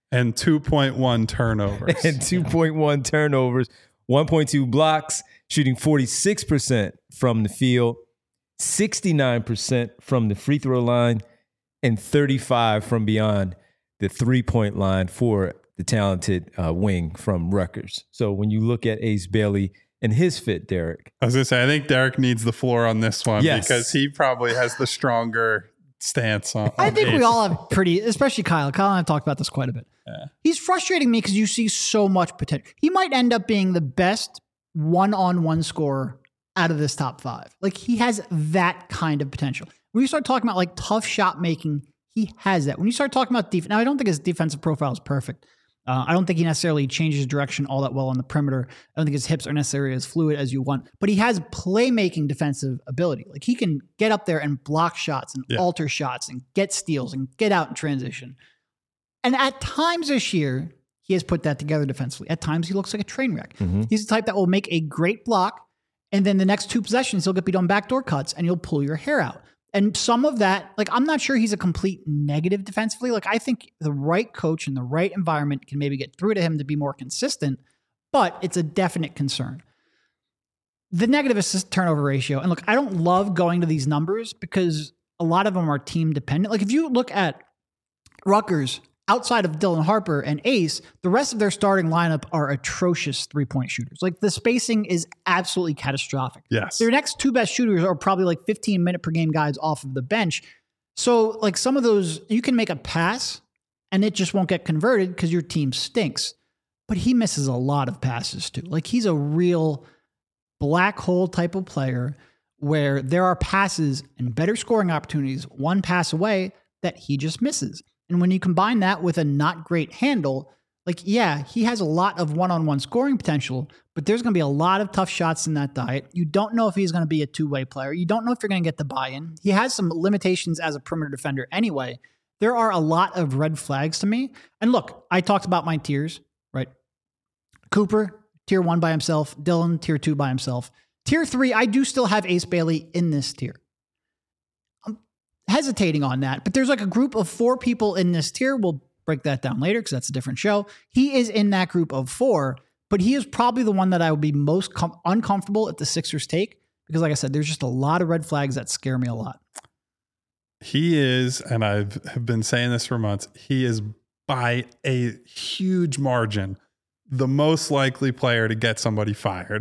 [SPEAKER 2] And two point one turnovers.
[SPEAKER 1] and two point one turnovers, one point two blocks, shooting forty-six percent from the field, sixty-nine percent from the free throw line, and thirty-five from beyond the three-point line for the talented uh, wing from Rutgers. So when you look at Ace Bailey and his fit, Derek.
[SPEAKER 2] I was going to say, I think Derek needs the floor on this one
[SPEAKER 1] Yes.
[SPEAKER 2] because he probably has the stronger stance on, on
[SPEAKER 3] I think
[SPEAKER 2] Ace.
[SPEAKER 3] we all have pretty, especially Kyle. Kyle and I have talked about this quite a bit.
[SPEAKER 2] Yeah.
[SPEAKER 3] He's frustrating me because you see so much potential. He might end up being the best one-on-one scorer out of this top five. Like, he has that kind of potential. When you start talking about like tough shot making, he has that. When you start talking about defense, now I don't think his defensive profile is perfect. Uh, I don't think he necessarily changes direction all that well on the perimeter. I don't think his hips are necessarily as fluid as you want, but he has playmaking defensive ability. Like, he can get up there and block shots and
[SPEAKER 2] Yeah.
[SPEAKER 3] alter shots and get steals and get out in transition. And at times this year, he has put that together defensively. At times, he looks like a train wreck.
[SPEAKER 1] Mm-hmm.
[SPEAKER 3] He's the type that will make a great block, and then the next two possessions, he'll get beat on backdoor cuts, and you'll pull your hair out. And some of that, like, I'm not sure he's a complete negative defensively. Like, I think the right coach in the right environment can maybe get through to him to be more consistent, but it's a definite concern. The negative assist turnover ratio, and look, I don't love going to these numbers because a lot of them are team dependent. Like, if you look at Rutgers, outside of Dylan Harper and Ace, the rest of their starting lineup are atrocious three-point shooters. Like, the spacing is absolutely catastrophic.
[SPEAKER 2] Yes.
[SPEAKER 3] Their next two best shooters are probably like fifteen minute per game guys off of the bench. So, like, some of those, you can make a pass and it just won't get converted because your team stinks. But he misses a lot of passes too. Like, he's a real black hole type of player where there are passes and better scoring opportunities one pass away that he just misses. And when you combine that with a not great handle, like, yeah, he has a lot of one-on-one scoring potential, but there's going to be a lot of tough shots in that diet. You don't know if he's going to be a two-way player. You don't know if you're going to get the buy-in. He has some limitations as a perimeter defender anyway. There are a lot of red flags to me. And look, I talked about my tiers, right? Cooper, tier one by himself. Dylan, tier two by himself. Tier three, I do still have Ace Bailey in this tier. Hesitating on that, but there's like a group of four people in this tier. We'll break that down later because that's a different show. He is in that group of four, but he is probably the one that I would be most com- uncomfortable if the Sixers take because, like I said, there's just a lot of red flags that scare me a lot.
[SPEAKER 2] He is, and I've have been saying this for months, he is by a huge margin the most likely player to get somebody fired.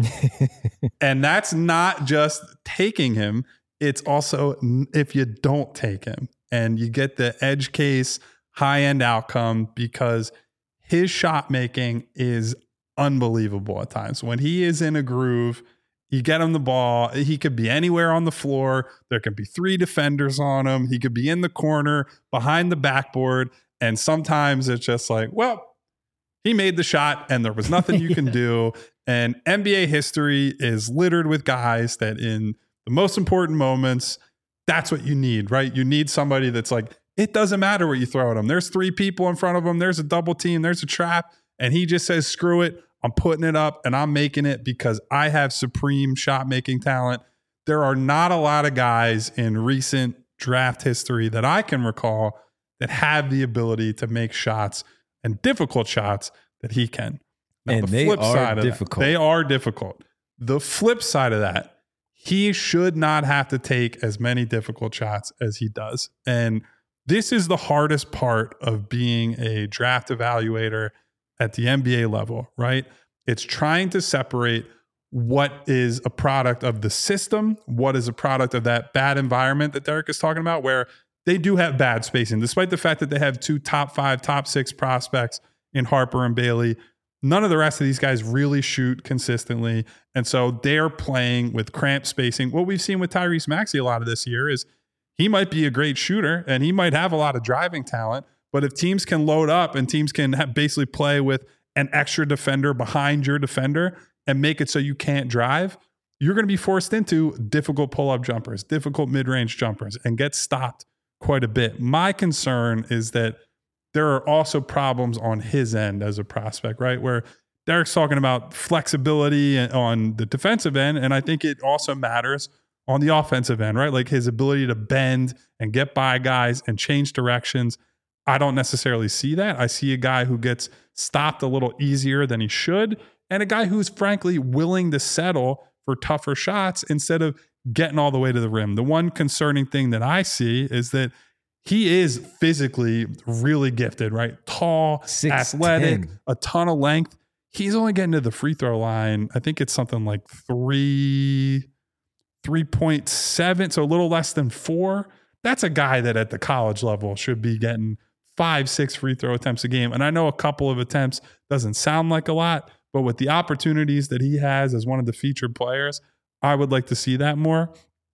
[SPEAKER 2] And that's not just taking him. It's also if you don't take him and you get the edge case high end outcome because his shot making is unbelievable at times. When he is in a groove, you get him the ball. He could be anywhere on the floor. There could be three defenders on him. He could be in the corner behind the backboard. And sometimes it's just like, well, he made the shot and there was nothing you can
[SPEAKER 3] Yeah.
[SPEAKER 2] do. And N B A history is littered with guys that in the most important moments, that's what you need, right? You need somebody that's like, it doesn't matter what you throw at him. There's three people in front of him. There's a double team. There's a trap. And he just says, screw it. I'm putting it up and I'm making it because I have supreme shot making talent. There are not a lot of guys in recent draft history that I can recall that have the ability to make shots and difficult shots that he can. Now,
[SPEAKER 1] And
[SPEAKER 2] the
[SPEAKER 1] they
[SPEAKER 2] flip
[SPEAKER 1] are
[SPEAKER 2] side of that-
[SPEAKER 1] difficult.
[SPEAKER 2] they are difficult. The flip side of that, he should not have to take as many difficult shots as he does. And this is the hardest part of being a draft evaluator at the N B A level, right? It's trying to separate what is a product of the system, what is a product of that bad environment that Derek is talking about, where they do have bad spacing, despite the fact that they have two top five, top six prospects in Harper and Bailey. None of the rest of these guys really shoot consistently. And so they're playing with cramped spacing. What we've seen with Tyrese Maxey a lot of this year is he might be a great shooter and he might have a lot of driving talent. But if teams can load up and teams can have basically play with an extra defender behind your defender and make it so you can't drive, you're going to be forced into difficult pull-up jumpers, difficult mid-range jumpers, and get stopped quite a bit. My concern is that there are also problems on his end as a prospect, right? Where Derek's talking about flexibility on the defensive end, and I think it also matters on the offensive end, right? Like his ability to bend and get by guys and change directions. I don't necessarily see that. I see a guy who gets stopped a little easier than he should, and a guy who's frankly willing to settle for tougher shots instead of getting all the way to the rim. The one concerning thing that I see is that he is physically really gifted, right? Tall,
[SPEAKER 1] six,
[SPEAKER 2] athletic,
[SPEAKER 1] ten.
[SPEAKER 2] a ton of length. He's only getting to the free throw line. I think it's something like three, three point seven, so a little less than four. That's a guy that at the college level should be getting five, six free throw attempts a game. And I know a couple of attempts doesn't sound like a lot, but with the opportunities that he has as one of the featured players, I would like to see that more.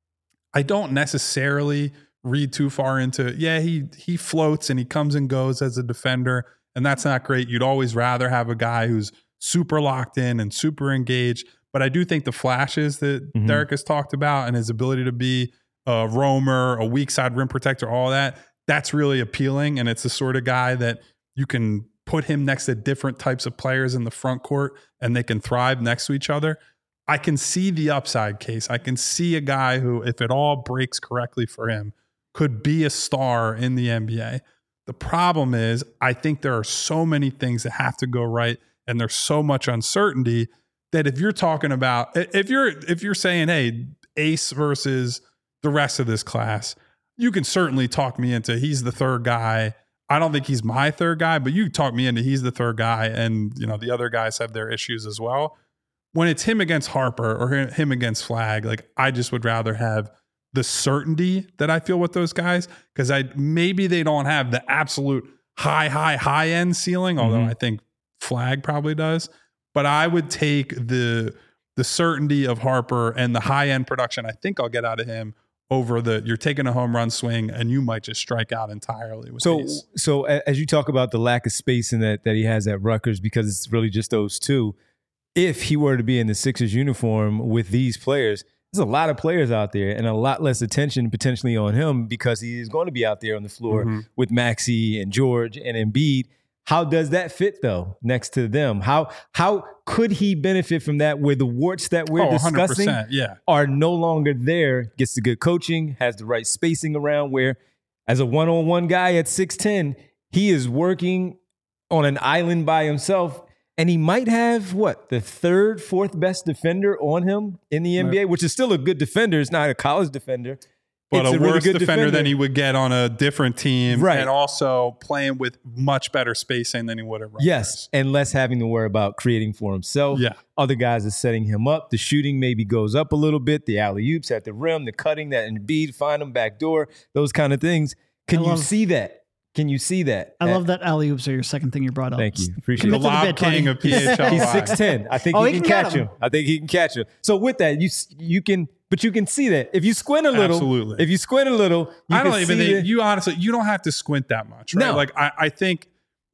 [SPEAKER 2] I don't necessarily read too far into, yeah, he he floats and he comes and goes as a defender, and that's not great. You'd always rather have a guy who's super locked in and super engaged. But I do think the flashes that mm-hmm. Derek has talked about and his ability to be a roamer, a weak side rim protector, all that, that's really appealing. And it's the sort of guy that you can put him next to different types of players in the front court and they can thrive next to each other. I can see the upside case. I can see a guy who, if it all breaks correctly for him, could be a star in the N B A. The problem is, I think there are so many things that have to go right, and there's so much uncertainty that if you're talking about, if you're if you're saying, hey, Ace versus the rest of this class, you can certainly talk me into he's the third guy. I don't think he's my third guy, but you talk me into he's the third guy, and you know the other guys have their issues as well. When it's him against Harper or him against Flagg, like I just would rather have the certainty that I feel with those guys, because I maybe they don't have the absolute high, high, high end ceiling, although mm-hmm. I think Flagg probably does. But I would take the the certainty of Harper and the high end production I think I'll get out of him over the you're taking a home run swing and you might just strike out entirely with
[SPEAKER 1] so
[SPEAKER 2] these.
[SPEAKER 1] So as you talk about the lack of spacing that that he has at Rutgers, because it's really just those two, if he were to be in the Sixers uniform with these players, there's a lot of players out there and a lot less attention potentially on him because he is going to be out there on the floor mm-hmm. with Maxey and George and Embiid. How does that fit though next to them? How how could he benefit from that where the warts that we're
[SPEAKER 2] oh,
[SPEAKER 1] discussing
[SPEAKER 2] yeah.
[SPEAKER 1] are no longer there, gets the good coaching, has the right spacing around, where as a one-on-one guy at six ten, he is working on an island by himself. And he might have, what, the third, fourth best defender on him in the N B A, right. which is still a good defender. It's not a college defender.
[SPEAKER 2] But
[SPEAKER 1] it's
[SPEAKER 2] a,
[SPEAKER 1] a really
[SPEAKER 2] worse
[SPEAKER 1] good
[SPEAKER 2] defender,
[SPEAKER 1] defender
[SPEAKER 2] than he would get on a different team.
[SPEAKER 1] Right.
[SPEAKER 2] And also playing with much better spacing than he would have.
[SPEAKER 1] Yes, and less having to worry about creating for himself.
[SPEAKER 2] Yeah.
[SPEAKER 1] Other guys are setting him up. The shooting maybe goes up a little bit. The alley-oops at the rim, the cutting, that Embiid, find him back door, those kind of things. Can
[SPEAKER 3] I
[SPEAKER 1] you
[SPEAKER 3] love-
[SPEAKER 1] see that? Can you see that?
[SPEAKER 3] I love that alley-oops are your second thing you brought up.
[SPEAKER 1] Thank you. Appreciate
[SPEAKER 2] the
[SPEAKER 1] it.
[SPEAKER 2] lob
[SPEAKER 3] bit,
[SPEAKER 2] king
[SPEAKER 3] buddy.
[SPEAKER 2] of P H L.
[SPEAKER 1] He's six ten. I think
[SPEAKER 3] Oh,
[SPEAKER 1] he,
[SPEAKER 3] he
[SPEAKER 1] can,
[SPEAKER 3] can get
[SPEAKER 1] catch
[SPEAKER 3] him.
[SPEAKER 1] him. I think he can catch him. So with that, you you can, but you can see that if you squint a little.
[SPEAKER 2] Absolutely.
[SPEAKER 1] If you squint a little, you
[SPEAKER 2] I don't
[SPEAKER 1] can
[SPEAKER 2] even
[SPEAKER 1] see
[SPEAKER 2] think
[SPEAKER 1] the-
[SPEAKER 2] you honestly you don't have to squint that much, right?
[SPEAKER 1] No.
[SPEAKER 2] Like I, I think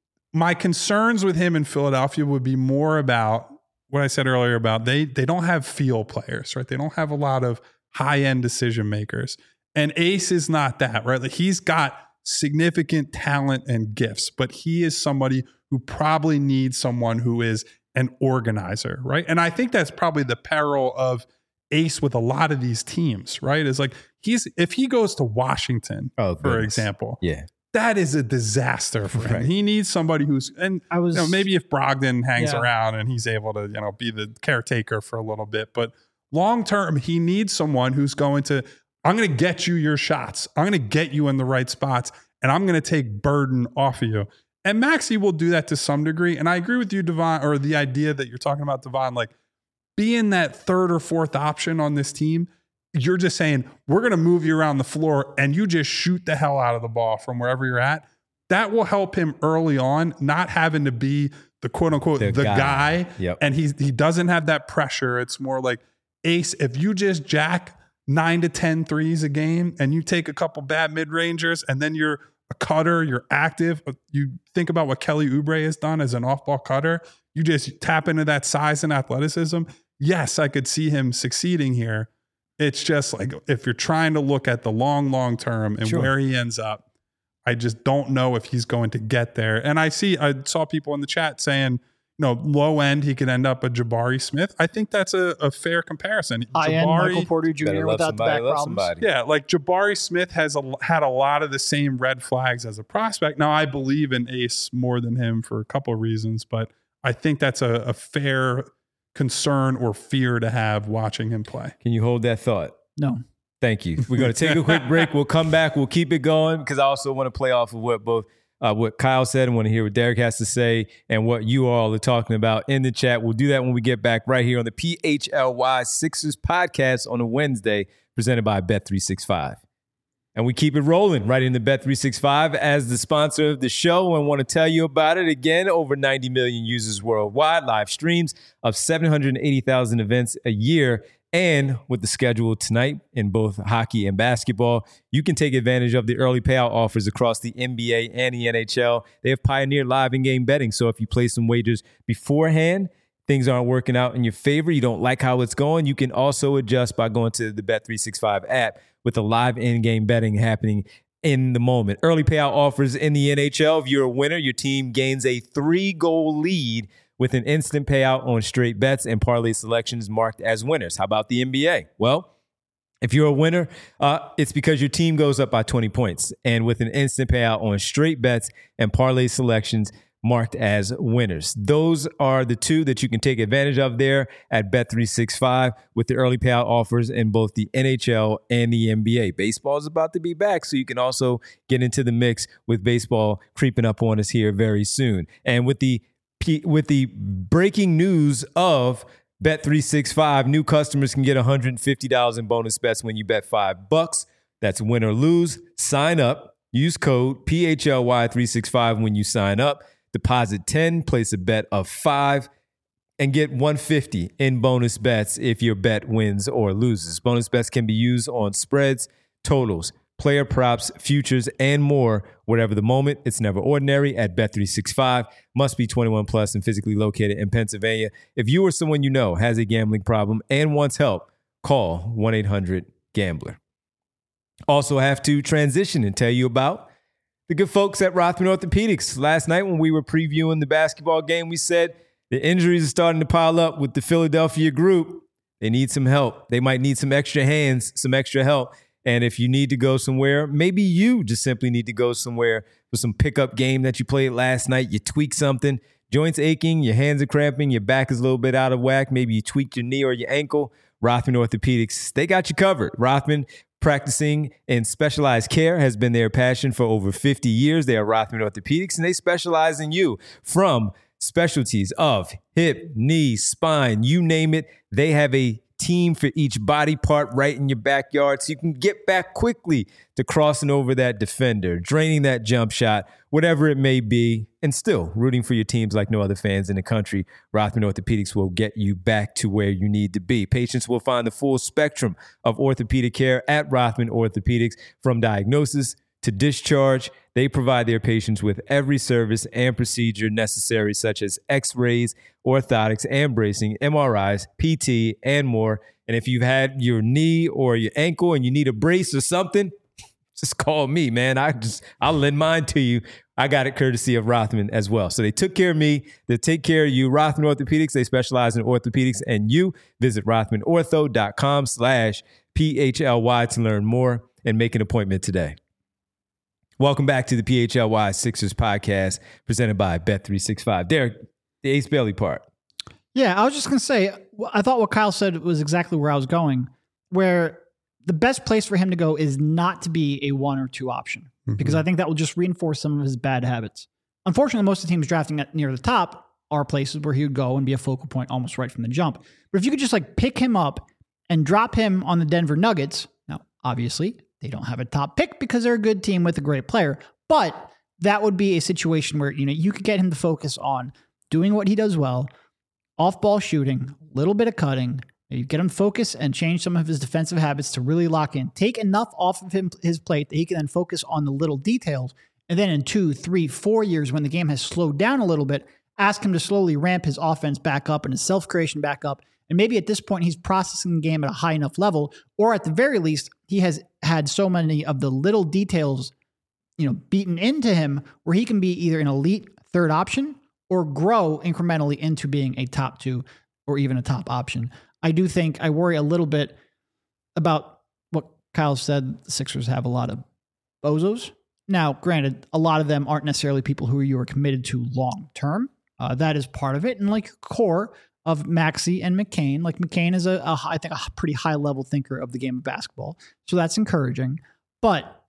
[SPEAKER 2] my concerns with him in Philadelphia would be more about what I said earlier about they they don't have feel players, right? They don't have a lot of high end decision makers, and Ace is not that, right? Like he's got significant talent and gifts, but he is somebody who probably needs someone who is an organizer, right? And I think that's probably the peril of Ace with a lot of these teams, right? Is like he's if he goes to Washington,
[SPEAKER 1] Oh,
[SPEAKER 2] for
[SPEAKER 1] goodness.
[SPEAKER 2] example,
[SPEAKER 1] yeah.
[SPEAKER 2] that is a disaster for him.
[SPEAKER 1] Right.
[SPEAKER 2] He needs somebody who's and
[SPEAKER 3] I was
[SPEAKER 2] you know, maybe if Brogdon hangs
[SPEAKER 3] Yeah.
[SPEAKER 2] around and he's able to, you know, be the caretaker for a little bit, but long term, he needs someone who's going to, I'm going to get you your shots. I'm going to get you in the right spots, and I'm going to take burden off of you. And Maxey will do that to some degree. And I agree with you, Devon, or the idea that you're talking about, Devon, like being that third or fourth option on this team. You're just saying, we're going to move you around the floor and you just shoot the hell out of the ball from wherever you're at. That will help him early on, not having to be the quote unquote, the,
[SPEAKER 1] The
[SPEAKER 2] guy.
[SPEAKER 1] guy. Yep.
[SPEAKER 2] And he's, he doesn't have that pressure. It's more like, Ace, if you just jack nine to ten threes a game and you take a couple bad mid-rangers and then you're a cutter, you're active. You think about what Kelly Oubre has done as an off-ball cutter. You just tap into that size and athleticism. Yes, I could see him succeeding here. It's just like if you're trying to look at the long, long term and
[SPEAKER 1] Sure.
[SPEAKER 2] where he ends up, I just don't know if he's going to get there. And I see, I saw people in the chat saying, no, low end, he could end up a Jabari Smith. I think that's a, a fair comparison.
[SPEAKER 3] High end Michael Porter
[SPEAKER 1] Better
[SPEAKER 3] Junior
[SPEAKER 1] love
[SPEAKER 3] without the
[SPEAKER 1] somebody,
[SPEAKER 3] back
[SPEAKER 1] love
[SPEAKER 3] problems.
[SPEAKER 1] somebody.
[SPEAKER 2] Yeah, like Jabari Smith has a, had a lot of the same red flags as a prospect. Now, I believe in Ace more than him for a couple of reasons, but I think that's a, a fair concern or fear to have watching him play.
[SPEAKER 1] Can you hold that thought?
[SPEAKER 3] No.
[SPEAKER 1] Thank you. We're going to take a quick break. We'll come back. We'll keep it going because I also want to play off of what both uh, what Kyle said and want to hear what Derek has to say and what you all are talking about in the chat. We'll do that when we get back right here on the P H L Y Sixers podcast on a Wednesday presented by Bet three sixty-five. And we keep it rolling right into Bet three sixty-five as the sponsor of the show and want to tell you about it again. Over ninety million users worldwide, live streams of seven hundred eighty thousand events a year. And with the schedule tonight in both hockey and basketball, you can take advantage of the early payout offers across the N B A and the N H L. They have pioneered live in-game betting. So if you place some wagers beforehand, things aren't working out in your favor, you don't like how it's going, you can also adjust by going to the Bet three sixty-five app with the live in-game betting happening in the moment. Early payout offers in the N H L. If you're a winner, your team gains a three-goal lead with an instant payout on straight bets and parlay selections marked as winners. How about the N B A? Well, if you're a winner, uh, it's because your team goes up by twenty points. And with an instant payout on straight bets and parlay selections marked as winners. Those are the two that you can take advantage of there at Bet three sixty-five with the early payout offers in both the N H L and the N B A. Baseball is about to be back, so you can also get into the mix with baseball creeping up on us here very soon. And with the with the breaking news of Bet three sixty-five, new customers can get one hundred fifty dollars in bonus bets when you bet five bucks. That's win or lose. Sign up. Use code P H L Y three sixty-five when you sign up. Deposit ten, place a bet of five, and get one hundred fifty dollars in bonus bets if your bet wins or loses. Bonus bets can be used on spreads, totals, player props, futures, and more. Whatever the moment, it's never ordinary at Bet three sixty-five. Must be twenty-one plus and physically located in Pennsylvania. If you or someone you know has a gambling problem and wants help, call one eight hundred gambler. Also have to transition and tell you about the good folks at Rothman Orthopedics. Last night when we were previewing the basketball game, we said the injuries are starting to pile up with the Philadelphia group. They need some help. They might need some extra hands, some extra help. And if you need to go somewhere, maybe you just simply need to go somewhere for some pickup game that you played last night. You tweak something, joints aching, your hands are cramping, your back is a little bit out of whack. Maybe you tweaked your knee or your ankle. Rothman Orthopedics, they got you covered. Rothman, practicing in specialized care, has been their passion for over fifty years. They are Rothman Orthopedics, and they specialize in you from specialties of hip, knee, spine, you name it. They have a team for each body part right in your backyard so you can get back quickly to crossing over that defender, draining that jump shot, whatever it may be, and still rooting for your teams like no other fans in the country. Rothman Orthopedics will get you back to where you need to be. Patients will find the full spectrum of orthopedic care at Rothman Orthopedics, from diagnosis to discharge. They provide their patients with every service and procedure necessary, such as x-rays, orthotics and bracing, M R Is, P T, and more. And if you've had your knee or your ankle and you need a brace or something, just call me, man. I just, I'll lend mine to you. I got it courtesy of Rothman as well. So they took care of me. They take care of you. Rothman Orthopedics, they specialize in orthopedics and you. Visit rothmanortho.com slash P-H-L-Y to learn more and make an appointment today. Welcome back to the P H L Y Sixers podcast presented by Bet three sixty-five. Derek, the Ace Bailey part.
[SPEAKER 3] Yeah, I was just going to say, I thought what Kyle said was exactly where I was going, where the best place for him to go is not to be a one or two option, mm-hmm. because I think that will just reinforce some of his bad habits. Unfortunately, most of the teams drafting at near the top are places where he would go and be a focal point almost right from the jump. But if you could just like pick him up and drop him on the Denver Nuggets, now obviously they don't have a top pick because they're a good team with a great player, but that would be a situation where, you know, you could get him to focus on doing what he does well, off-ball shooting, a little bit of cutting. You get him focused and change some of his defensive habits to really lock in. Take enough off of him his plate that he can then focus on the little details. And then in two, three, four years, when the game has slowed down a little bit, ask him to slowly ramp his offense back up and his self-creation back up. And maybe at this point, he's processing the game at a high enough level, or at the very least, he has had so many of the little details, you know, beaten into him where he can be either an elite third option or grow incrementally into being a top two or even a top option. I do think I worry a little bit about what Kyle said. The Sixers have a lot of bozos. Now, granted, a lot of them aren't necessarily people who you are committed to long term. Uh, that is part of it. And like core of Maxey and McCain, like McCain is a, a I think a pretty high level thinker of the game of basketball. So that's encouraging. But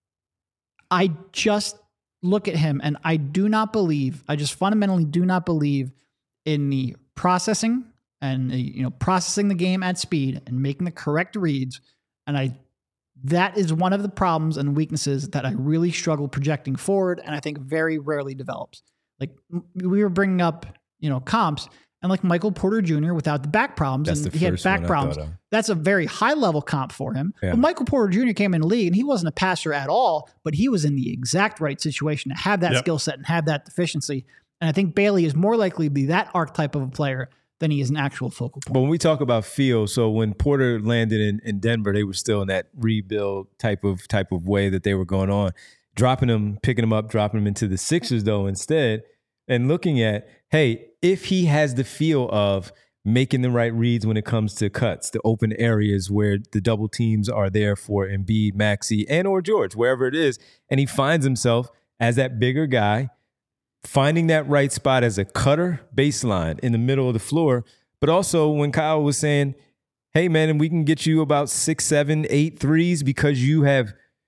[SPEAKER 3] I just look at him and I do not believe, I just fundamentally do not believe in the processing and the, you know, processing the game at speed and making the correct reads. And I, that is one of the problems and weaknesses that I really struggle projecting forward. And I think very rarely develops. Like we were bringing up, you know, comps and like Michael Porter Junior without the back problems.
[SPEAKER 1] That's
[SPEAKER 3] and
[SPEAKER 1] the
[SPEAKER 3] he had
[SPEAKER 1] first
[SPEAKER 3] back
[SPEAKER 1] one I
[SPEAKER 3] problems.
[SPEAKER 1] thought of.
[SPEAKER 3] That's a very high level comp for him.
[SPEAKER 1] Yeah.
[SPEAKER 3] But Michael Porter Junior came in the league and he wasn't a passer at all, but he was in the exact right situation to have that
[SPEAKER 2] Yep.
[SPEAKER 3] skill set and have that deficiency. And I think Bailey is more likely to be that archetype of a player than he is an actual focal point.
[SPEAKER 1] But when we talk about feel, so when Porter landed in, in Denver, they were still in that rebuild type of type of way that they were going on. Dropping him, picking him up, dropping him into the Sixers though instead, and looking at, hey, if he has the feel of making the right reads when it comes to cuts, the open areas where the double teams are there for Embiid, Maxey, and or George, wherever it is, and he finds himself as that bigger guy, finding that right spot as a cutter baseline in the middle of the floor. But also when Kyle was saying, hey, man, and we can get you about six, seven, eight threes because you have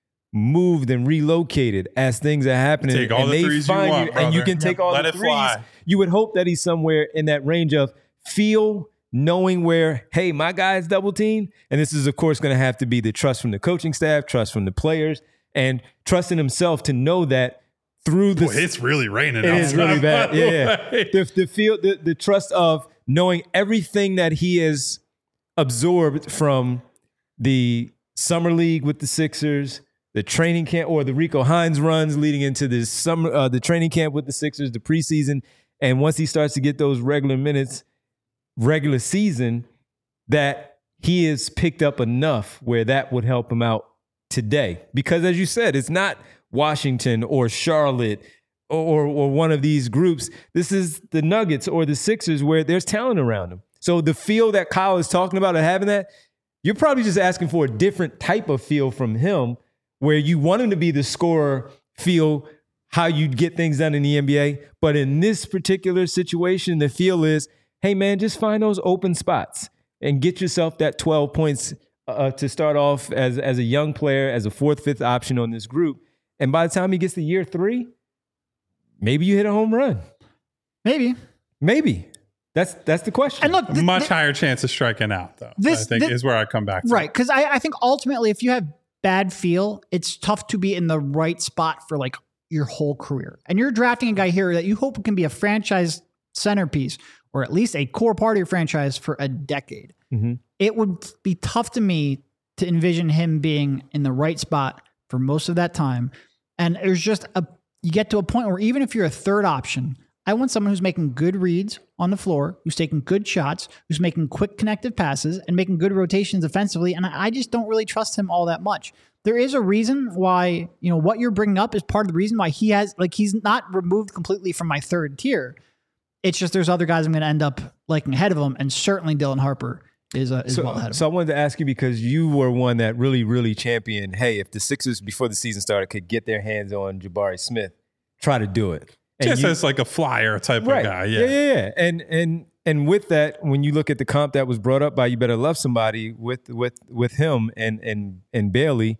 [SPEAKER 1] moved and relocated as things are happening.
[SPEAKER 2] Take all
[SPEAKER 1] and
[SPEAKER 2] the
[SPEAKER 1] they
[SPEAKER 2] threes you
[SPEAKER 1] find
[SPEAKER 2] want,
[SPEAKER 1] and you
[SPEAKER 2] brother.
[SPEAKER 1] can take
[SPEAKER 2] Yep.
[SPEAKER 1] all
[SPEAKER 2] Let
[SPEAKER 1] the
[SPEAKER 2] it
[SPEAKER 1] threes.
[SPEAKER 2] fly.
[SPEAKER 1] You would hope that he's somewhere in that range of feel, knowing where, hey, my guy's double teamed. And this is, of course, going to have to be the trust from the coaching staff, trust from the players, and trusting himself to know that through the...
[SPEAKER 2] Boy, it's really raining.
[SPEAKER 1] It is
[SPEAKER 2] outside,
[SPEAKER 1] really bad.
[SPEAKER 2] by the
[SPEAKER 1] Yeah.
[SPEAKER 2] way.
[SPEAKER 1] The, the feel, the, the trust of knowing everything that he has absorbed from the summer league with the Sixers, the training camp, or the Rico Hines runs leading into the summer, uh, the training camp with the Sixers, the preseason, and once he starts to get those regular minutes, regular season, that he has picked up enough where that would help him out today. Because as you said, it's not Washington or Charlotte or, or one of these groups. This is the Nuggets or the Sixers where there's talent around them. So the feel that Kyle is talking about and having that, you're probably just asking for a different type of feel from him where you want him to be the scorer, feel how you'd get things done in the N B A. But in this particular situation, the feel is, hey, man, just find those open spots and get yourself that twelve points uh, to start off as, as a young player, as a fourth, fifth option on this group. And by the time he gets to year three, maybe you hit a home run.
[SPEAKER 3] Maybe.
[SPEAKER 1] Maybe. That's that's the question.
[SPEAKER 3] And look,
[SPEAKER 2] A
[SPEAKER 3] th-
[SPEAKER 2] much
[SPEAKER 3] th-
[SPEAKER 2] higher chance of striking out, though.
[SPEAKER 3] This-
[SPEAKER 2] I think
[SPEAKER 3] this-
[SPEAKER 2] is where I come back to.
[SPEAKER 3] right. Because I, I think ultimately, if you have bad feel, it's tough to be in the right spot for like your whole career. And you're drafting a guy here that you hope can be a franchise centerpiece or at least a core part of your franchise for a decade.
[SPEAKER 1] Mm-hmm.
[SPEAKER 3] It would be tough to me to envision him being in the right spot for most of that time. And there's just a, you get to a point where even if you're a third option, I want someone who's making good reads on the floor, who's taking good shots, who's making quick connective passes and making good rotations offensively. And I just don't really trust him all that much. There is a reason why, you know, what you're bringing up is part of the reason why he has, like, he's not removed completely from my third tier. It's just there's other guys I'm going to end up liking ahead of him. And certainly Dylan Harper is, uh, is
[SPEAKER 1] So,
[SPEAKER 3] well ahead of him.
[SPEAKER 1] so I wanted to ask you because you were one that really, really championed, hey, if the Sixers before the season started could get their hands on Jabari Smith, try to do it. And
[SPEAKER 2] Just
[SPEAKER 1] you-
[SPEAKER 2] as like a flyer type
[SPEAKER 1] right.
[SPEAKER 2] of guy.
[SPEAKER 1] yeah,
[SPEAKER 2] Yeah.
[SPEAKER 1] yeah, yeah. And and and with that, when you look at the comp that was brought up by You Better Love Somebody with with with him and and and Bailey,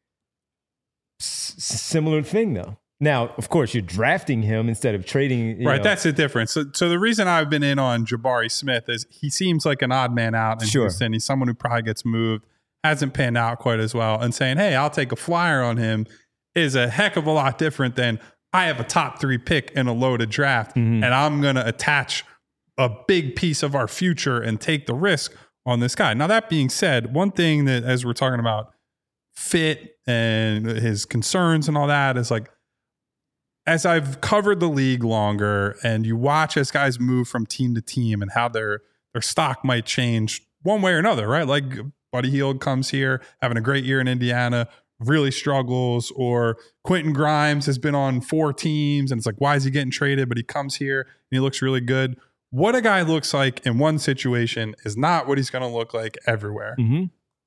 [SPEAKER 1] s- similar thing though. Now, of course, you're drafting him instead of trading. you
[SPEAKER 2] Right,
[SPEAKER 1] know.
[SPEAKER 2] that's the difference. So, so the reason I've been in on Jabari Smith is he seems like an odd man out in
[SPEAKER 1] Sure.
[SPEAKER 2] Houston. He's someone who probably gets moved, hasn't panned out quite as well, and saying, "Hey, I'll take a flyer on him," is a heck of a lot different than I have a top three pick in a loaded draft,
[SPEAKER 1] Mhm.
[SPEAKER 2] and I'm going to attach a big piece of our future and take the risk on this guy. Now, that being said, one thing that as we're talking about fit and his concerns and all that is like, as I've covered the league longer and you watch as guys move from team to team and how their their stock might change one way or another, right? Like Buddy Hield comes here, having a great year in Indiana, really struggles, or Quentin Grimes has been on four teams and it's like, why is he getting traded? But he comes here and he looks really good. What a guy looks like in one situation is not what he's going to look like everywhere.
[SPEAKER 1] Mm-hmm.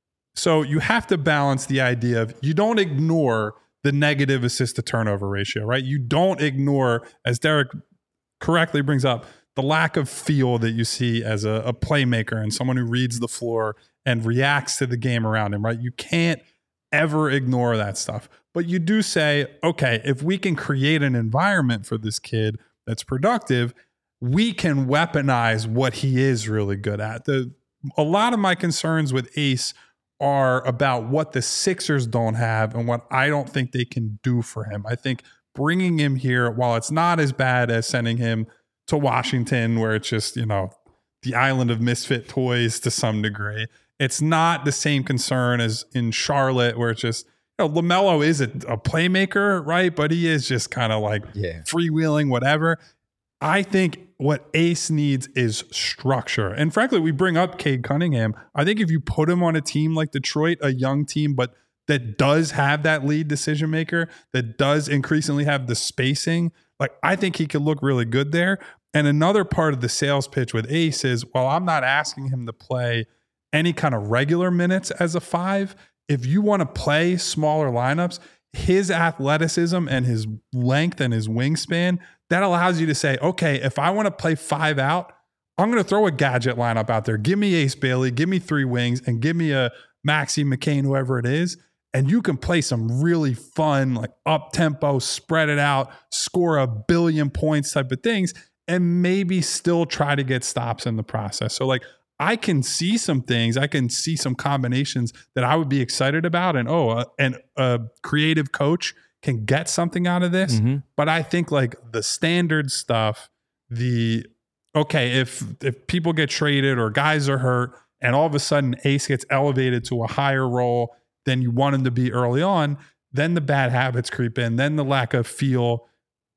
[SPEAKER 2] So you have to balance the idea of, you don't ignore the negative assist to turnover ratio, right? You don't ignore, as Derek correctly brings up, the lack of feel that you see as a, a playmaker and someone who reads the floor and reacts to the game around him, right? You can't ever ignore that stuff. But you do say, okay, if we can create an environment for this kid that's productive, we can weaponize what he is really good at. The a lot of my concerns with Ace are about what the Sixers don't have and what I don't think they can do for him. I think bringing him here, while it's not as bad as sending him to Washington, where it's just, you know, the island of misfit toys to some degree, it's not the same concern as in Charlotte, where it's just, you know, LaMelo is a, a playmaker, right? But he is just kind of like
[SPEAKER 1] Yeah.
[SPEAKER 2] freewheeling, whatever. I think what Ace needs is structure. And frankly, we bring up Cade Cunningham. I think if you put him on a team like Detroit, a young team, but that does have that lead decision maker, that does increasingly have the spacing, like I think he could look really good there. And another part of the sales pitch with Ace is, well, I'm not asking him to play any kind of regular minutes as a five. If you want to play smaller lineups, his athleticism and his length and his wingspan, that allows you to say, okay, if I want to play five out, I'm going to throw a gadget lineup out there. Give me Ace Bailey, give me three wings, and give me a Maxey McCain, whoever it is. And you can play some really fun, like up-tempo, spread it out, score a billion points type of things, and maybe still try to get stops in the process. So like, I can see some things, I can see some combinations that I would be excited about. And oh, uh, and a creative coach can get something out of this.
[SPEAKER 1] Mm-hmm.
[SPEAKER 2] But I think like the standard stuff, the, okay, if if people get traded or guys are hurt and all of a sudden Ace gets elevated to a higher role than you want him to be early on, then the bad habits creep in, then the lack of feel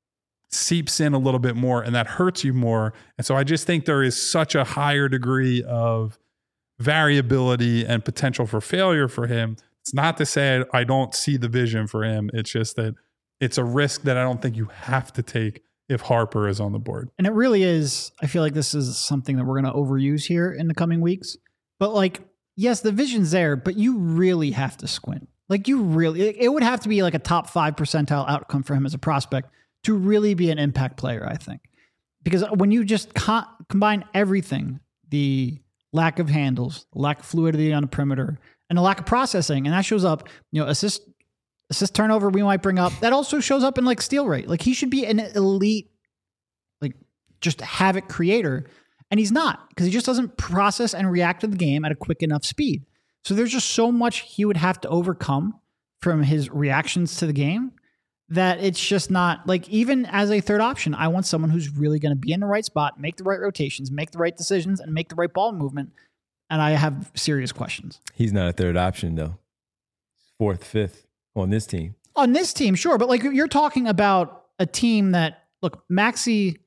[SPEAKER 2] seeps in a little bit more, and that hurts you more. And so I just think there is such a higher degree of variability and potential for failure for him. It's not to say I don't see the vision for him. It's just that it's a risk that I don't think you have to take if Harper is on the board.
[SPEAKER 3] And it really is, I feel like this is something that we're going to overuse here in the coming weeks. But like, yes, the vision's there, but you really have to squint. Like you really, it, it would have to be like a top five percentile outcome for him as a prospect to really be an impact player, I think. Because when you just co- combine everything, the lack of handles, lack of fluidity on the perimeter, and the lack of processing, and that shows up, you know, assist, assist turnover we might bring up, that also shows up in like steal rate. Like he should be an elite, like just havoc creator. And he's not, because he just doesn't process and react to the game at a quick enough speed. So there's just so much he would have to overcome from his reactions to the game that it's just not, like, even as a third option, I want someone who's really going to be in the right spot, make the right rotations, make the right decisions, and make the right ball movement. And I have serious questions.
[SPEAKER 1] He's not a third option, though. Fourth, fifth on this team.
[SPEAKER 3] On this team, sure. But like, you're talking about a team that, look, Maxey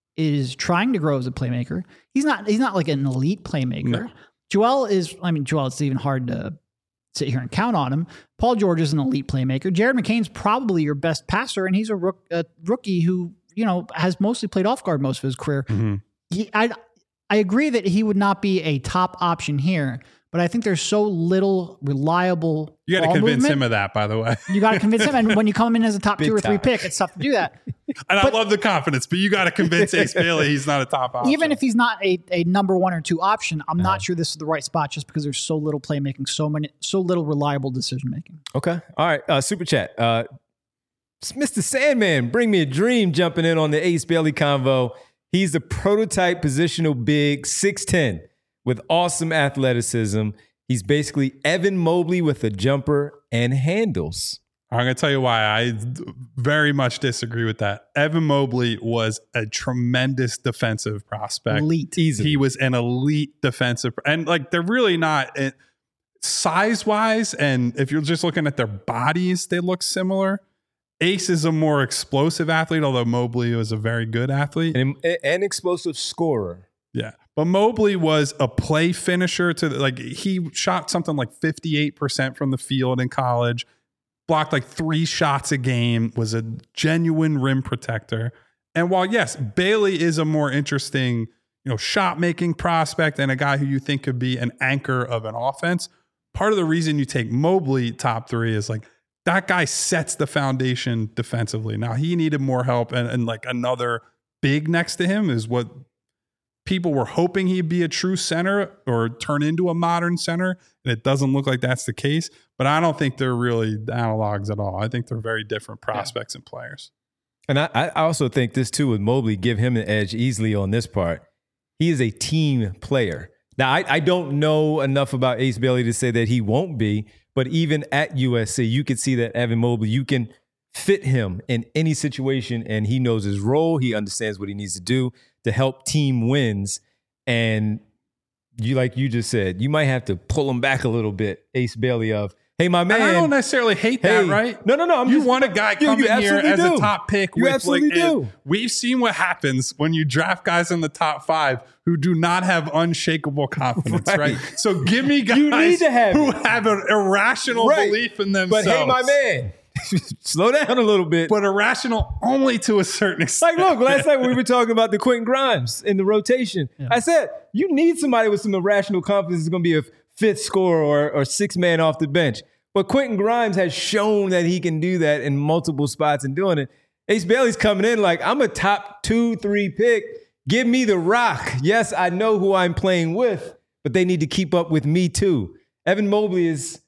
[SPEAKER 3] is trying to grow as a playmaker. He's not, he's not like an elite playmaker.
[SPEAKER 2] No.
[SPEAKER 3] Joel is, I mean, Joel, it's even hard to sit here and count on him. Paul George is an elite playmaker. Jared McCain's probably your best passer, and he's a, rook, a rookie who, you know, has mostly played off guard most of his career.
[SPEAKER 2] Mm-hmm.
[SPEAKER 3] He, I, I agree that he would not be a top option here, but I think there's so little reliable.
[SPEAKER 2] You got to
[SPEAKER 3] ball
[SPEAKER 2] convince
[SPEAKER 3] movement.
[SPEAKER 2] him of that, by the way.
[SPEAKER 3] You got to convince him. And when you come in as a top
[SPEAKER 1] Big
[SPEAKER 3] two or three
[SPEAKER 1] time.
[SPEAKER 3] pick, it's tough to do that.
[SPEAKER 2] And
[SPEAKER 3] But-
[SPEAKER 2] I love the confidence, but you got to convince Ace Bailey he's not a top option.
[SPEAKER 3] Even if he's not a, a number one or two option, I'm
[SPEAKER 1] Uh-huh.
[SPEAKER 3] not sure this is the right spot just because there's so little playmaking, so many, so little reliable decision making.
[SPEAKER 1] Okay. All right. Uh, super chat. Uh, Mister Sandman, bring me a dream jumping in on the Ace Bailey convo. He's the prototype positional big, six ten, with awesome athleticism. He's basically Evan Mobley with a jumper and handles.
[SPEAKER 2] I'm going to tell you why I very much disagree with that. Evan Mobley was a tremendous defensive prospect.
[SPEAKER 3] Elite.
[SPEAKER 1] Easily.
[SPEAKER 2] He was an elite defensive, and like they're really not it, size-wise. And if you're just looking at their bodies, they look similar. Ace is a more explosive athlete, although Mobley was a very good athlete.
[SPEAKER 1] An, an explosive scorer.
[SPEAKER 2] Yeah. But Mobley was a play finisher to the, like he shot something like fifty-eight percent from the field in college. blocked like three shots a game, was a genuine rim protector. And while, yes, Bailey is a more interesting, you know, shot-making prospect and a guy who you think could be an anchor of an offense, part of the reason you take Mobley top three is like that guy sets the foundation defensively. Now, he needed more help, and, and like another big next to him is what people were hoping he'd be a true center or turn into a modern center, and it doesn't look like that's the case. But I don't think they're really analogs at all. I think they're very different prospects yeah. and players.
[SPEAKER 1] And I, I also think this too with Mobley, give him an edge easily on this part. He is a team player. Now, I, I don't know enough about Ace Bailey to say that he won't be, but even at U S C, you could see that Evan Mobley, you can fit him in any situation, and he knows his role. He understands what he needs to do to help team wins. And you, like you just said, you might have to pull him back a little bit, Ace Bailey, of, hey, my man.
[SPEAKER 2] And I don't necessarily hate that,
[SPEAKER 1] hey,
[SPEAKER 2] right?
[SPEAKER 1] No, no, no. I'm
[SPEAKER 2] you
[SPEAKER 1] just,
[SPEAKER 2] want a guy coming
[SPEAKER 1] you, you
[SPEAKER 2] here as
[SPEAKER 1] do.
[SPEAKER 2] a top pick.
[SPEAKER 1] You
[SPEAKER 2] with
[SPEAKER 1] absolutely
[SPEAKER 2] like,
[SPEAKER 1] do.
[SPEAKER 2] We've seen what happens when you draft guys in the top five who do not have unshakable confidence, right? right? So give me guys
[SPEAKER 1] you need to have
[SPEAKER 2] who
[SPEAKER 1] it.
[SPEAKER 2] have an irrational
[SPEAKER 1] right.
[SPEAKER 2] belief in themselves.
[SPEAKER 1] But hey, my man, slow down a little bit.
[SPEAKER 2] But irrational only to a certain extent.
[SPEAKER 1] Like, look, last night we were talking about the Quentin Grimes in the rotation. Yeah. I said, you need somebody with some irrational confidence who's going to be a fifth scorer or, or sixth man off the bench. But Quentin Grimes has shown that he can do that in multiple spots and doing it. Ace Bailey's coming in like, I'm a top two, three pick. Give me the rock. Yes, I know who I'm playing with, but they need to keep up with me too. Evan Mobley is,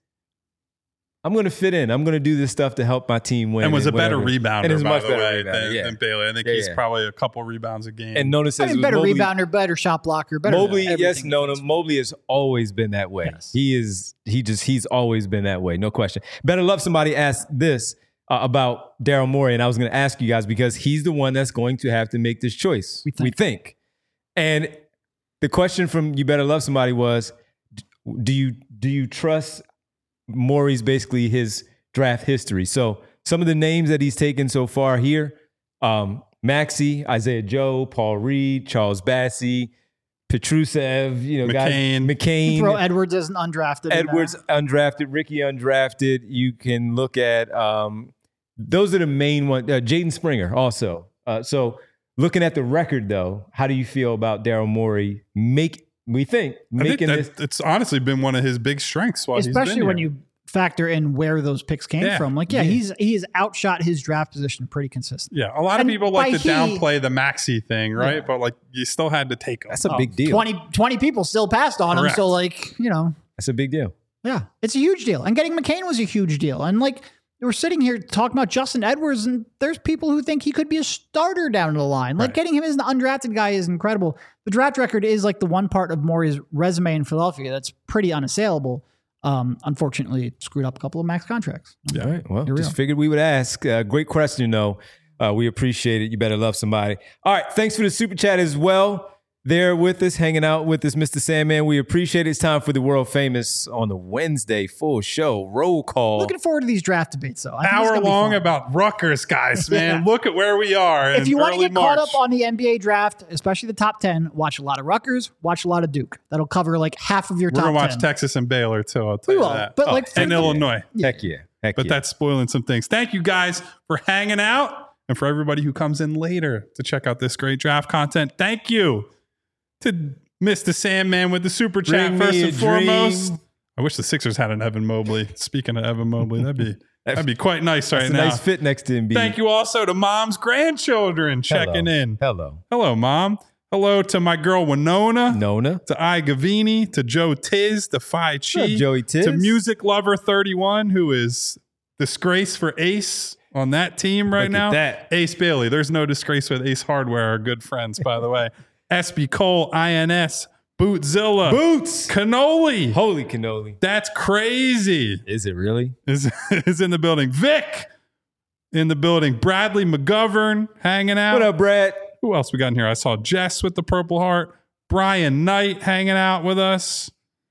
[SPEAKER 1] I'm going to fit in. I'm going to do this stuff to help my team win.
[SPEAKER 2] And was
[SPEAKER 1] and
[SPEAKER 2] a better
[SPEAKER 1] whatever.
[SPEAKER 2] rebounder,
[SPEAKER 1] and is
[SPEAKER 2] by
[SPEAKER 1] much
[SPEAKER 2] the
[SPEAKER 1] better
[SPEAKER 2] way,
[SPEAKER 1] rebounder,
[SPEAKER 2] than,
[SPEAKER 1] yeah.
[SPEAKER 2] than Bailey. I think
[SPEAKER 1] yeah,
[SPEAKER 2] he's
[SPEAKER 1] yeah.
[SPEAKER 2] probably a couple rebounds a game.
[SPEAKER 1] And notice
[SPEAKER 3] I mean, better
[SPEAKER 1] Mobley,
[SPEAKER 3] rebounder, better shot blocker, better
[SPEAKER 1] Mobley, yes, no, no. Mobley has always been that way.
[SPEAKER 3] Yes.
[SPEAKER 1] He is, he just, he's always been that way. No question. Better Love Somebody asked this uh, about Daryl Morey, and I was going to ask you guys because he's the one that's going to have to make this choice.
[SPEAKER 3] We think.
[SPEAKER 1] We think. And the question from You Better Love Somebody was, do you, do you trust Morey's basically his draft history? So some of the names that he's taken so far here, um, Maxey, Isaiah Joe, Paul Reed, Charles Bassey, Petrusev, you know,
[SPEAKER 2] McCain.
[SPEAKER 1] guys, McCain.
[SPEAKER 3] Throw Edwards as an undrafted.
[SPEAKER 1] Edwards undrafted, Ricky undrafted. You can look at, um, those are the main ones. Uh, Jaden Springer also. Uh, so looking at the record though, how do you feel about Daryl Morey make, we think, making
[SPEAKER 2] I think
[SPEAKER 1] this?
[SPEAKER 2] that, it's honestly been one of his big strengths while
[SPEAKER 3] Especially
[SPEAKER 2] he's been
[SPEAKER 3] when
[SPEAKER 2] here.
[SPEAKER 3] you factor in where those picks came
[SPEAKER 2] Yeah.
[SPEAKER 3] from. Like, yeah,
[SPEAKER 1] Yeah.
[SPEAKER 3] he's he's outshot his draft position pretty consistent.
[SPEAKER 2] Yeah, a lot
[SPEAKER 3] And
[SPEAKER 2] of people like
[SPEAKER 3] by
[SPEAKER 2] to
[SPEAKER 3] he-
[SPEAKER 2] downplay the Maxey thing, right?
[SPEAKER 3] Yeah.
[SPEAKER 2] But like, you still had to take him.
[SPEAKER 1] That's a
[SPEAKER 3] Oh,
[SPEAKER 1] big deal.
[SPEAKER 3] twenty, twenty people still passed on
[SPEAKER 2] Correct.
[SPEAKER 3] him. So, like, you know,
[SPEAKER 1] That's a big deal.
[SPEAKER 3] yeah, it's a huge deal. And getting McCain was a huge deal. And like, we're sitting here talking about Justin Edwards, and there's people who think he could be a starter down the line. Like,
[SPEAKER 2] Right.
[SPEAKER 3] getting him as an undrafted guy is incredible. The draft record is like the one part of Morey's resume in Philadelphia that's pretty unassailable. Um, unfortunately, it screwed up a couple of max contracts.
[SPEAKER 1] All right. Well,
[SPEAKER 3] Here we
[SPEAKER 1] just
[SPEAKER 3] are.
[SPEAKER 1] figured we would ask. Uh, great question, though. Uh, we appreciate it. You better love somebody. All right. Thanks for the super chat as well. There with us, hanging out with us, Mister Sandman. We appreciate it. It's time for the world famous on the Wednesday full show roll call.
[SPEAKER 3] Looking forward to these draft debates, though. I think it's
[SPEAKER 2] Hour
[SPEAKER 3] gonna be
[SPEAKER 2] long
[SPEAKER 3] fun.
[SPEAKER 2] about Rutgers, guys, man.
[SPEAKER 3] Yeah.
[SPEAKER 2] Look at where we are.
[SPEAKER 3] If
[SPEAKER 2] in
[SPEAKER 3] you want to
[SPEAKER 2] early
[SPEAKER 3] get caught
[SPEAKER 2] March.
[SPEAKER 3] up on the N B A draft, especially the top ten, watch a lot of Rutgers, watch a lot of Duke. That'll cover like half of your
[SPEAKER 2] we're
[SPEAKER 3] top
[SPEAKER 2] gonna watch
[SPEAKER 3] ten.
[SPEAKER 2] Texas and Baylor too. I'll tell
[SPEAKER 3] We
[SPEAKER 2] you
[SPEAKER 3] will,
[SPEAKER 2] that.
[SPEAKER 3] but,
[SPEAKER 2] Oh,
[SPEAKER 3] like,
[SPEAKER 2] and
[SPEAKER 3] for-
[SPEAKER 2] Illinois.
[SPEAKER 1] Heck yeah. Heck
[SPEAKER 2] But
[SPEAKER 1] yeah.
[SPEAKER 2] that's spoiling some things. Thank you guys for hanging out, and for everybody who comes in later to check out this great draft content. Thank you to Mister Sandman with the super chat
[SPEAKER 1] Bring
[SPEAKER 2] first
[SPEAKER 1] me a
[SPEAKER 2] and foremost.
[SPEAKER 1] dream.
[SPEAKER 2] I wish the Sixers had an Evan Mobley. Speaking of Evan Mobley, that'd be that'd be quite nice right
[SPEAKER 1] That's a
[SPEAKER 2] now.
[SPEAKER 1] nice fit next to Embiid.
[SPEAKER 2] Thank you also to Mom's grandchildren checking
[SPEAKER 1] Hello.
[SPEAKER 2] in.
[SPEAKER 1] Hello.
[SPEAKER 2] Hello, Mom. Hello to my girl Winona.
[SPEAKER 1] Nona.
[SPEAKER 2] To I Gavini, to Joe Tiz, to Phi Chi,
[SPEAKER 1] What's up, Joey Tiz?
[SPEAKER 2] to Music Lover thirty-one, who is disgrace for Ace on that team right
[SPEAKER 1] Look
[SPEAKER 2] now.
[SPEAKER 1] at that.
[SPEAKER 2] Ace Bailey. There's no disgrace with Ace Hardware, our good friends, by the way. S B Cole, I N S, Bootzilla,
[SPEAKER 1] Boots.
[SPEAKER 2] Cannoli.
[SPEAKER 1] Holy cannoli.
[SPEAKER 2] That's crazy.
[SPEAKER 1] Is it really?
[SPEAKER 2] Is, is in the building. Vic in the building. Bradley McGovern hanging out.
[SPEAKER 1] What up, Brad?
[SPEAKER 2] Who else we got in here? I saw Jess with the Purple Heart. Brian Knight hanging out with us.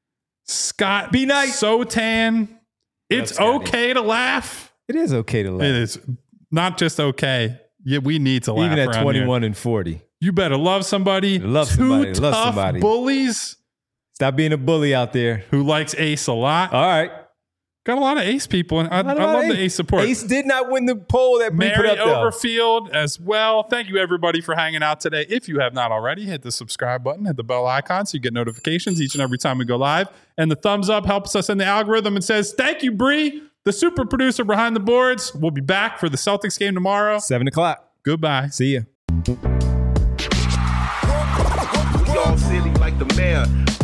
[SPEAKER 2] Scott
[SPEAKER 1] B. Knight.
[SPEAKER 2] Sotan. It's
[SPEAKER 1] Scotty?
[SPEAKER 2] okay to laugh.
[SPEAKER 1] It is okay to laugh.
[SPEAKER 2] It is not just okay. Yeah, we need to laugh.
[SPEAKER 1] Even at
[SPEAKER 2] around
[SPEAKER 1] twenty-one
[SPEAKER 2] here.
[SPEAKER 1] and forty.
[SPEAKER 2] You better love somebody.
[SPEAKER 1] Love
[SPEAKER 2] Two
[SPEAKER 1] somebody. Love
[SPEAKER 2] tough
[SPEAKER 1] somebody.
[SPEAKER 2] bullies
[SPEAKER 1] Stop being a bully out there.
[SPEAKER 2] who likes Ace a lot.
[SPEAKER 1] All right.
[SPEAKER 2] Got a lot of Ace people, and I, I
[SPEAKER 1] Not
[SPEAKER 2] love
[SPEAKER 1] about
[SPEAKER 2] the Ace support.
[SPEAKER 1] Ace did not win the poll that we put
[SPEAKER 2] Mary
[SPEAKER 1] up there.
[SPEAKER 2] Overfield as well. Thank you, everybody, for hanging out today. If you have not already, hit the subscribe button, hit the bell icon so you get notifications each and every time we go live. And the thumbs up helps us in the algorithm and says, thank you, Bree, the super producer behind the boards. We'll be back for the Celtics game tomorrow.
[SPEAKER 1] Seven o'clock.
[SPEAKER 2] Goodbye.
[SPEAKER 1] See ya.
[SPEAKER 4] Y'all silly like the mayor.